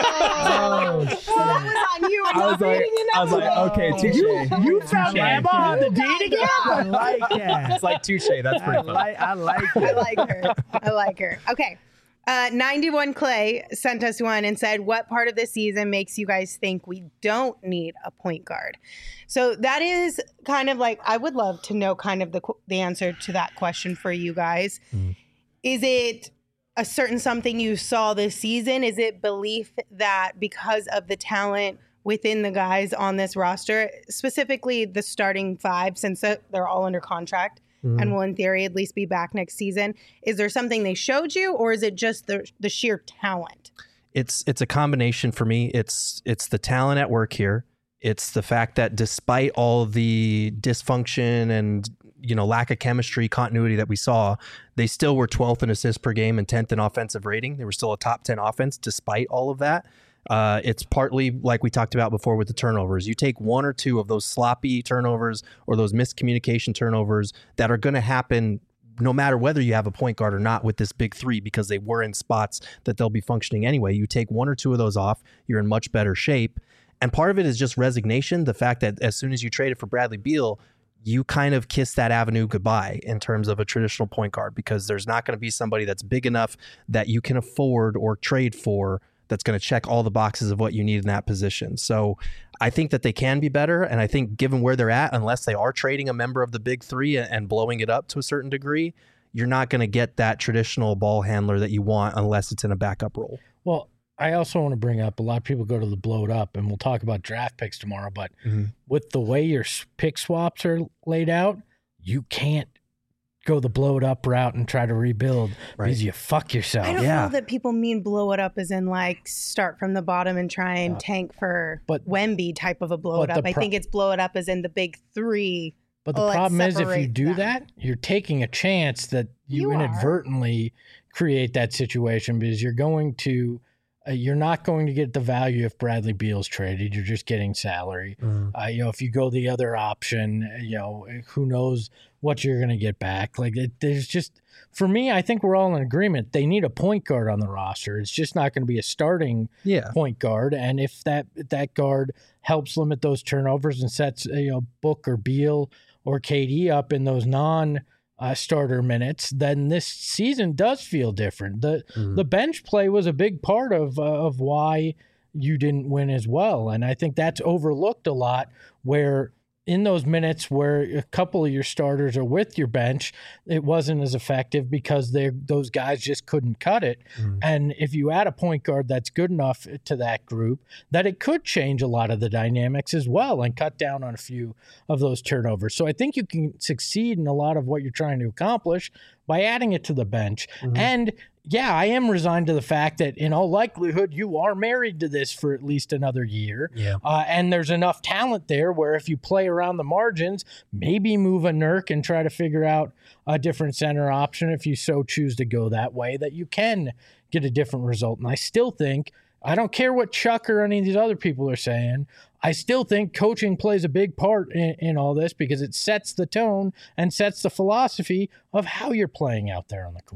Oh shit. Well, that was on you. I'm I not was like, reading it I was like, up. okay, touche. You found Emma on the dating app. I like that. It's like touche. That's I pretty funny. like. I like I that. like her. I like her. Okay. Uh, ninety-one Clay sent us one and said, what part of the season makes you guys think we don't need a point guard? So that is kind of like, I would love to know kind of the, qu- the answer to that question for you guys. Mm. Is it a certain something you saw this season? Is it belief that because of the talent within the guys on this roster, specifically the starting five, since they're all under contract, Mm. and will in theory at least be back next season, is there something they showed you, or is it just the the sheer talent? It's it's a combination for me. It's it's the talent at work here. It's the fact that despite all the dysfunction and you know lack of chemistry, continuity that we saw, they still were twelfth in assists per game and tenth in offensive rating. They were still a top ten offense despite all of that. Uh, it's partly like we talked about before with the turnovers. You take one or two of those sloppy turnovers or those miscommunication turnovers that are going to happen no matter whether you have a point guard or not with this big three, because they were in spots that they'll be functioning anyway. You take one or two of those off, you're in much better shape. And part of it is just resignation. The fact that as soon as you traded for Bradley Beal, you kind of kiss that avenue goodbye in terms of a traditional point guard, because there's not going to be somebody that's big enough that you can afford or trade for that's going to check all the boxes of what you need in that position. So I think that they can be better. And I think given where they're at, unless they are trading a member of the big three and blowing it up to a certain degree, you're not going to get that traditional ball handler that you want unless it's in a backup role. Well, I also want to bring up, a lot of people go to the blow it up, and we'll talk about draft picks tomorrow, but Mm-hmm. with the way your s- pick swaps are laid out, you can't go the blow it up route and try to rebuild Right. because you fuck yourself. I don't Yeah. know that people mean blow it up as in like start from the bottom and try and tank for but- Wemby type of a blow but it up. the I pro- think it's blow it up as in the big three. But the Let's problem is, if you separate do them. that, you're taking a chance that you, You are. inadvertently create that situation, because you're going to, uh, you're not going to get the value if Bradley Beal's traded. You're just getting salary. Mm. Uh, you know, if you go the other option, uh, you know, who knows what you're going to get back. Like, it, there's just, for me, I think we're all in agreement. They need a point guard on the roster. It's just not going to be a starting Yeah. point guard. And if that that guard helps limit those turnovers and sets, uh, you know, Book or Beal or K D up in those non uh, starter minutes, then this season does feel different. The Mhm. the bench play was a big part of uh, of why you didn't win as well, and I think that's overlooked a lot, where in those minutes where a couple of your starters are with your bench, it wasn't as effective because they those guys just couldn't cut it. Mhm. And if you add a point guard that's good enough to that group, that it could change a lot of the dynamics as well and cut down on a few of those turnovers. So I think you can succeed in a lot of what you're trying to accomplish by adding it to the bench. Mhm. And yeah, I am resigned to the fact that in all likelihood, you are married to this for at least another year. Yeah. Uh, and there's enough talent there where if you play around the margins, maybe move a Nurk and try to figure out a different center option if you so choose to go that way, that you can get a different result. And I still think, I don't care what Chuck or any of these other people are saying, I still think coaching plays a big part in, in all this, because it sets the tone and sets the philosophy of how you're playing out there on the court.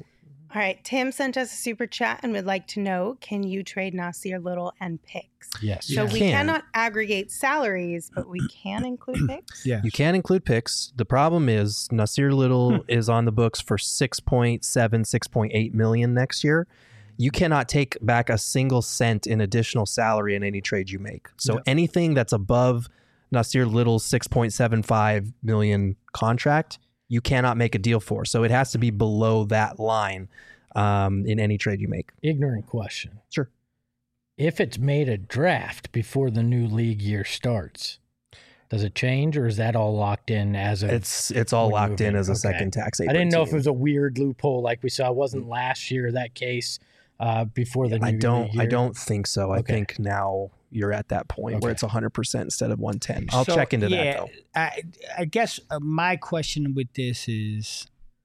All right. Tim sent us a super chat and would like to know, can you trade Nasir Little and picks? Yes. So You we can. cannot aggregate salaries, but we can include picks? Yeah. You can include picks. The problem is Nasir Little is on the books for six point seven, six point eight million next year. You cannot take back a single cent in additional salary in any trade you make. So Yep. anything that's above Nasir Little's six point seven five million contract, you cannot make a deal for. So it has to be below that line um, in any trade you make. Ignorant question. Sure. If it's made a draft before the new league year starts, does it change, or is that all locked in as a? It's it's all when locked in moving? as a Okay. second tax. I didn't know if it was a weird loophole like we saw. It wasn't last year that case uh, before the new I don't. league year. I don't think so. I Okay. think now you're at that point where Okay. it's one hundred percent instead of one ten. I'll So, check into yeah, that though. I, I guess uh, my question with this is,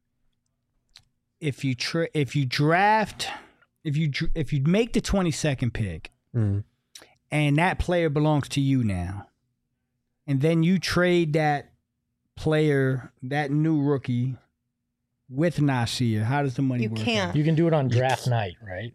if you tra- if you draft, if you dr- if you make the twenty-second pick, Mm. and that player belongs to you now, and then you trade that player, that new rookie, with Nasir, how does the money You work? can't. out? You can do it on draft night, right?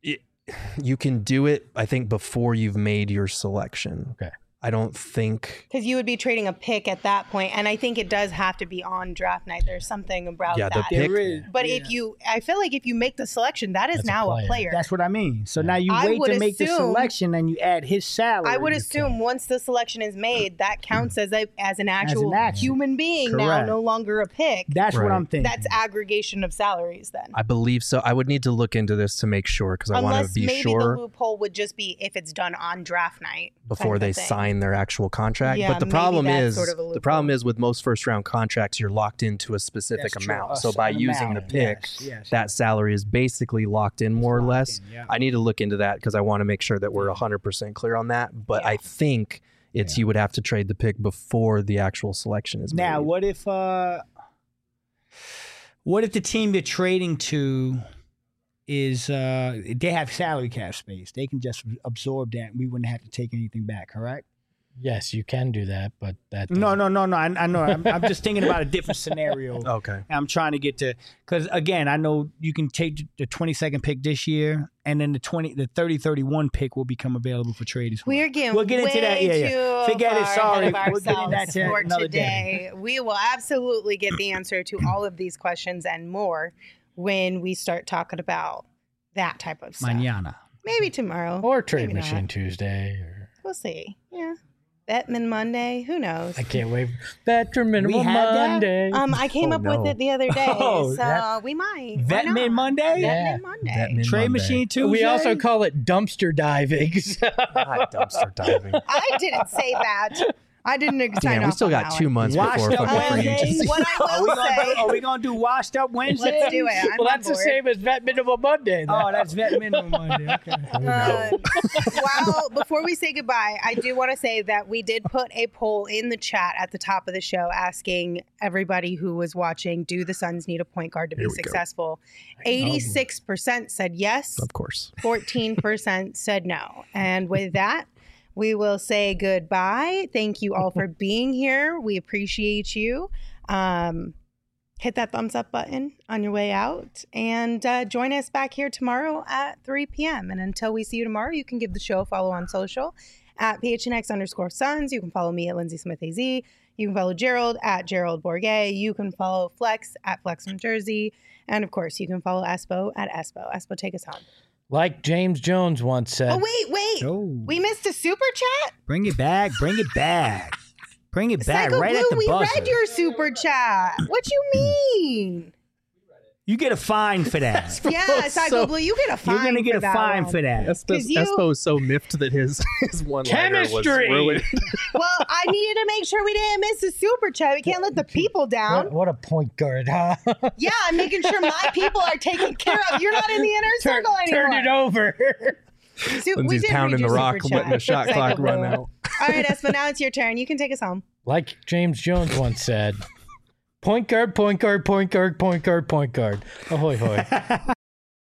You can do it, I think, before you've made your selection. Okay. I don't think. Because you would be trading a pick at that point, and I think it does have to be on draft night. There's something about Yeah, the that. pick- There is, But yeah. if you, I feel like if you make the selection, that is That's a now a player. player. That's what I mean. So now you I wait would to make the assume- selection, and you add his salary. I would assume once the selection is made, that counts as a as an actual action. human being now, Correct. no longer a pick. That's what Right. I'm thinking. That's aggregation of salaries then. I believe so. I would need to look into this to make sure because I want Unless to be maybe sure the loophole would just be if it's done on draft night before kind they of thing. sign their actual contract. Yeah, but the maybe problem that's is sort of a the problem is with most first round contracts, you're locked into a specific That's true. amount. A So s- by an using amount, the pick, yes, yes, that yes. salary is basically locked in more or locked less. in, yeah. I need to look into that because I want to make sure that we're one hundred percent clear on that. But I think it's you would have to trade the pick before the actual selection is Now, made. what if uh what if the team you're trading to is uh they have salary cap space? They can just absorb that and we wouldn't have to take anything back, correct? Yes, you can do that, but that No, no, no, no. I, I know. I'm, I'm just thinking about a different scenario. Okay. I'm trying to get to because again, I know you can take the twenty-second pick this year, and then the twenty, the thirty, thirty-one pick will become available for trade as well. We're getting We'll get into way that. Yeah, yeah. too Forget it. far Sorry, ahead of we'll get into that ourselves to for another today. We will absolutely get the answer to all of these questions and more when we start talking about that type of stuff. Mañana. Maybe tomorrow. or Trade Maybe Machine not. Tuesday. Or We'll see. Yeah. Betman Monday. Who knows? I can't wait. Veteran minimum had that? Monday. Um, I came Oh, up no. with it the other day, Oh, so that- we might. Why Vet not? Min Monday? Yeah. Vetman Monday. Vetman Trade Monday. Machine Tuesday. we also call it dumpster diving. Not dumpster diving. I didn't say that. I didn't sign Damn, we off still on got that two one. months Washed before up fucking free Wednesdays? agency. What I Are will we, gonna say. do, are we gonna do washed up Wednesday? Let's do it. I'm well, on that's the board. same as Vet Minimum Monday. Oh, that's Vet Minimum Monday. Okay. Uh, well, before we say goodbye, I do want to say that we did put a poll in the chat at the top of the show asking everybody who was watching, do the Suns need a point guard to be Here we go. successful? eighty-six percent said yes, Of course. fourteen percent said no. And with that, we will say goodbye. Thank you all for being here. We appreciate you. Um, hit that thumbs up button on your way out and uh, join us back here tomorrow at three p.m. And until we see you tomorrow, you can give the show a follow on social at P H N X underscore Suns. You can follow me at Lindsay Smith A Z. You can follow Gerald at Gerald Bourget. You can follow Flex at Flex from Jersey. And of course, you can follow Espo at Espo. Espo, take us home. Like James Jones once said. Oh, wait, wait. Oh. We missed a super chat? Bring it back. Bring it back. Bring it back Psycho right Blue, at the we buzzer. read your super chat. What you mean? You get a fine for that. Yeah, Psycho so- Blue, you get a fine You're gonna get for a that fine one. for that. Espo, 'Cause you- Espo is so miffed that his his one liner was Chemistry! ruined. Well, I needed to make sure we didn't miss a super chat. We can't let the people down. What, what a point guard, huh? Yeah, I'm making sure my people are taken care of. You're not in the inner turn, circle anymore. turn it over. Su- we Lindsay's did pounding read the your rock, super letting the chat. shot Psycho clock run Blue. out. All right, Espo, now it's your turn. You can take us home. Like James Jones once said, point guard, point guard, point guard, point guard, point guard. Ahoy, hoy.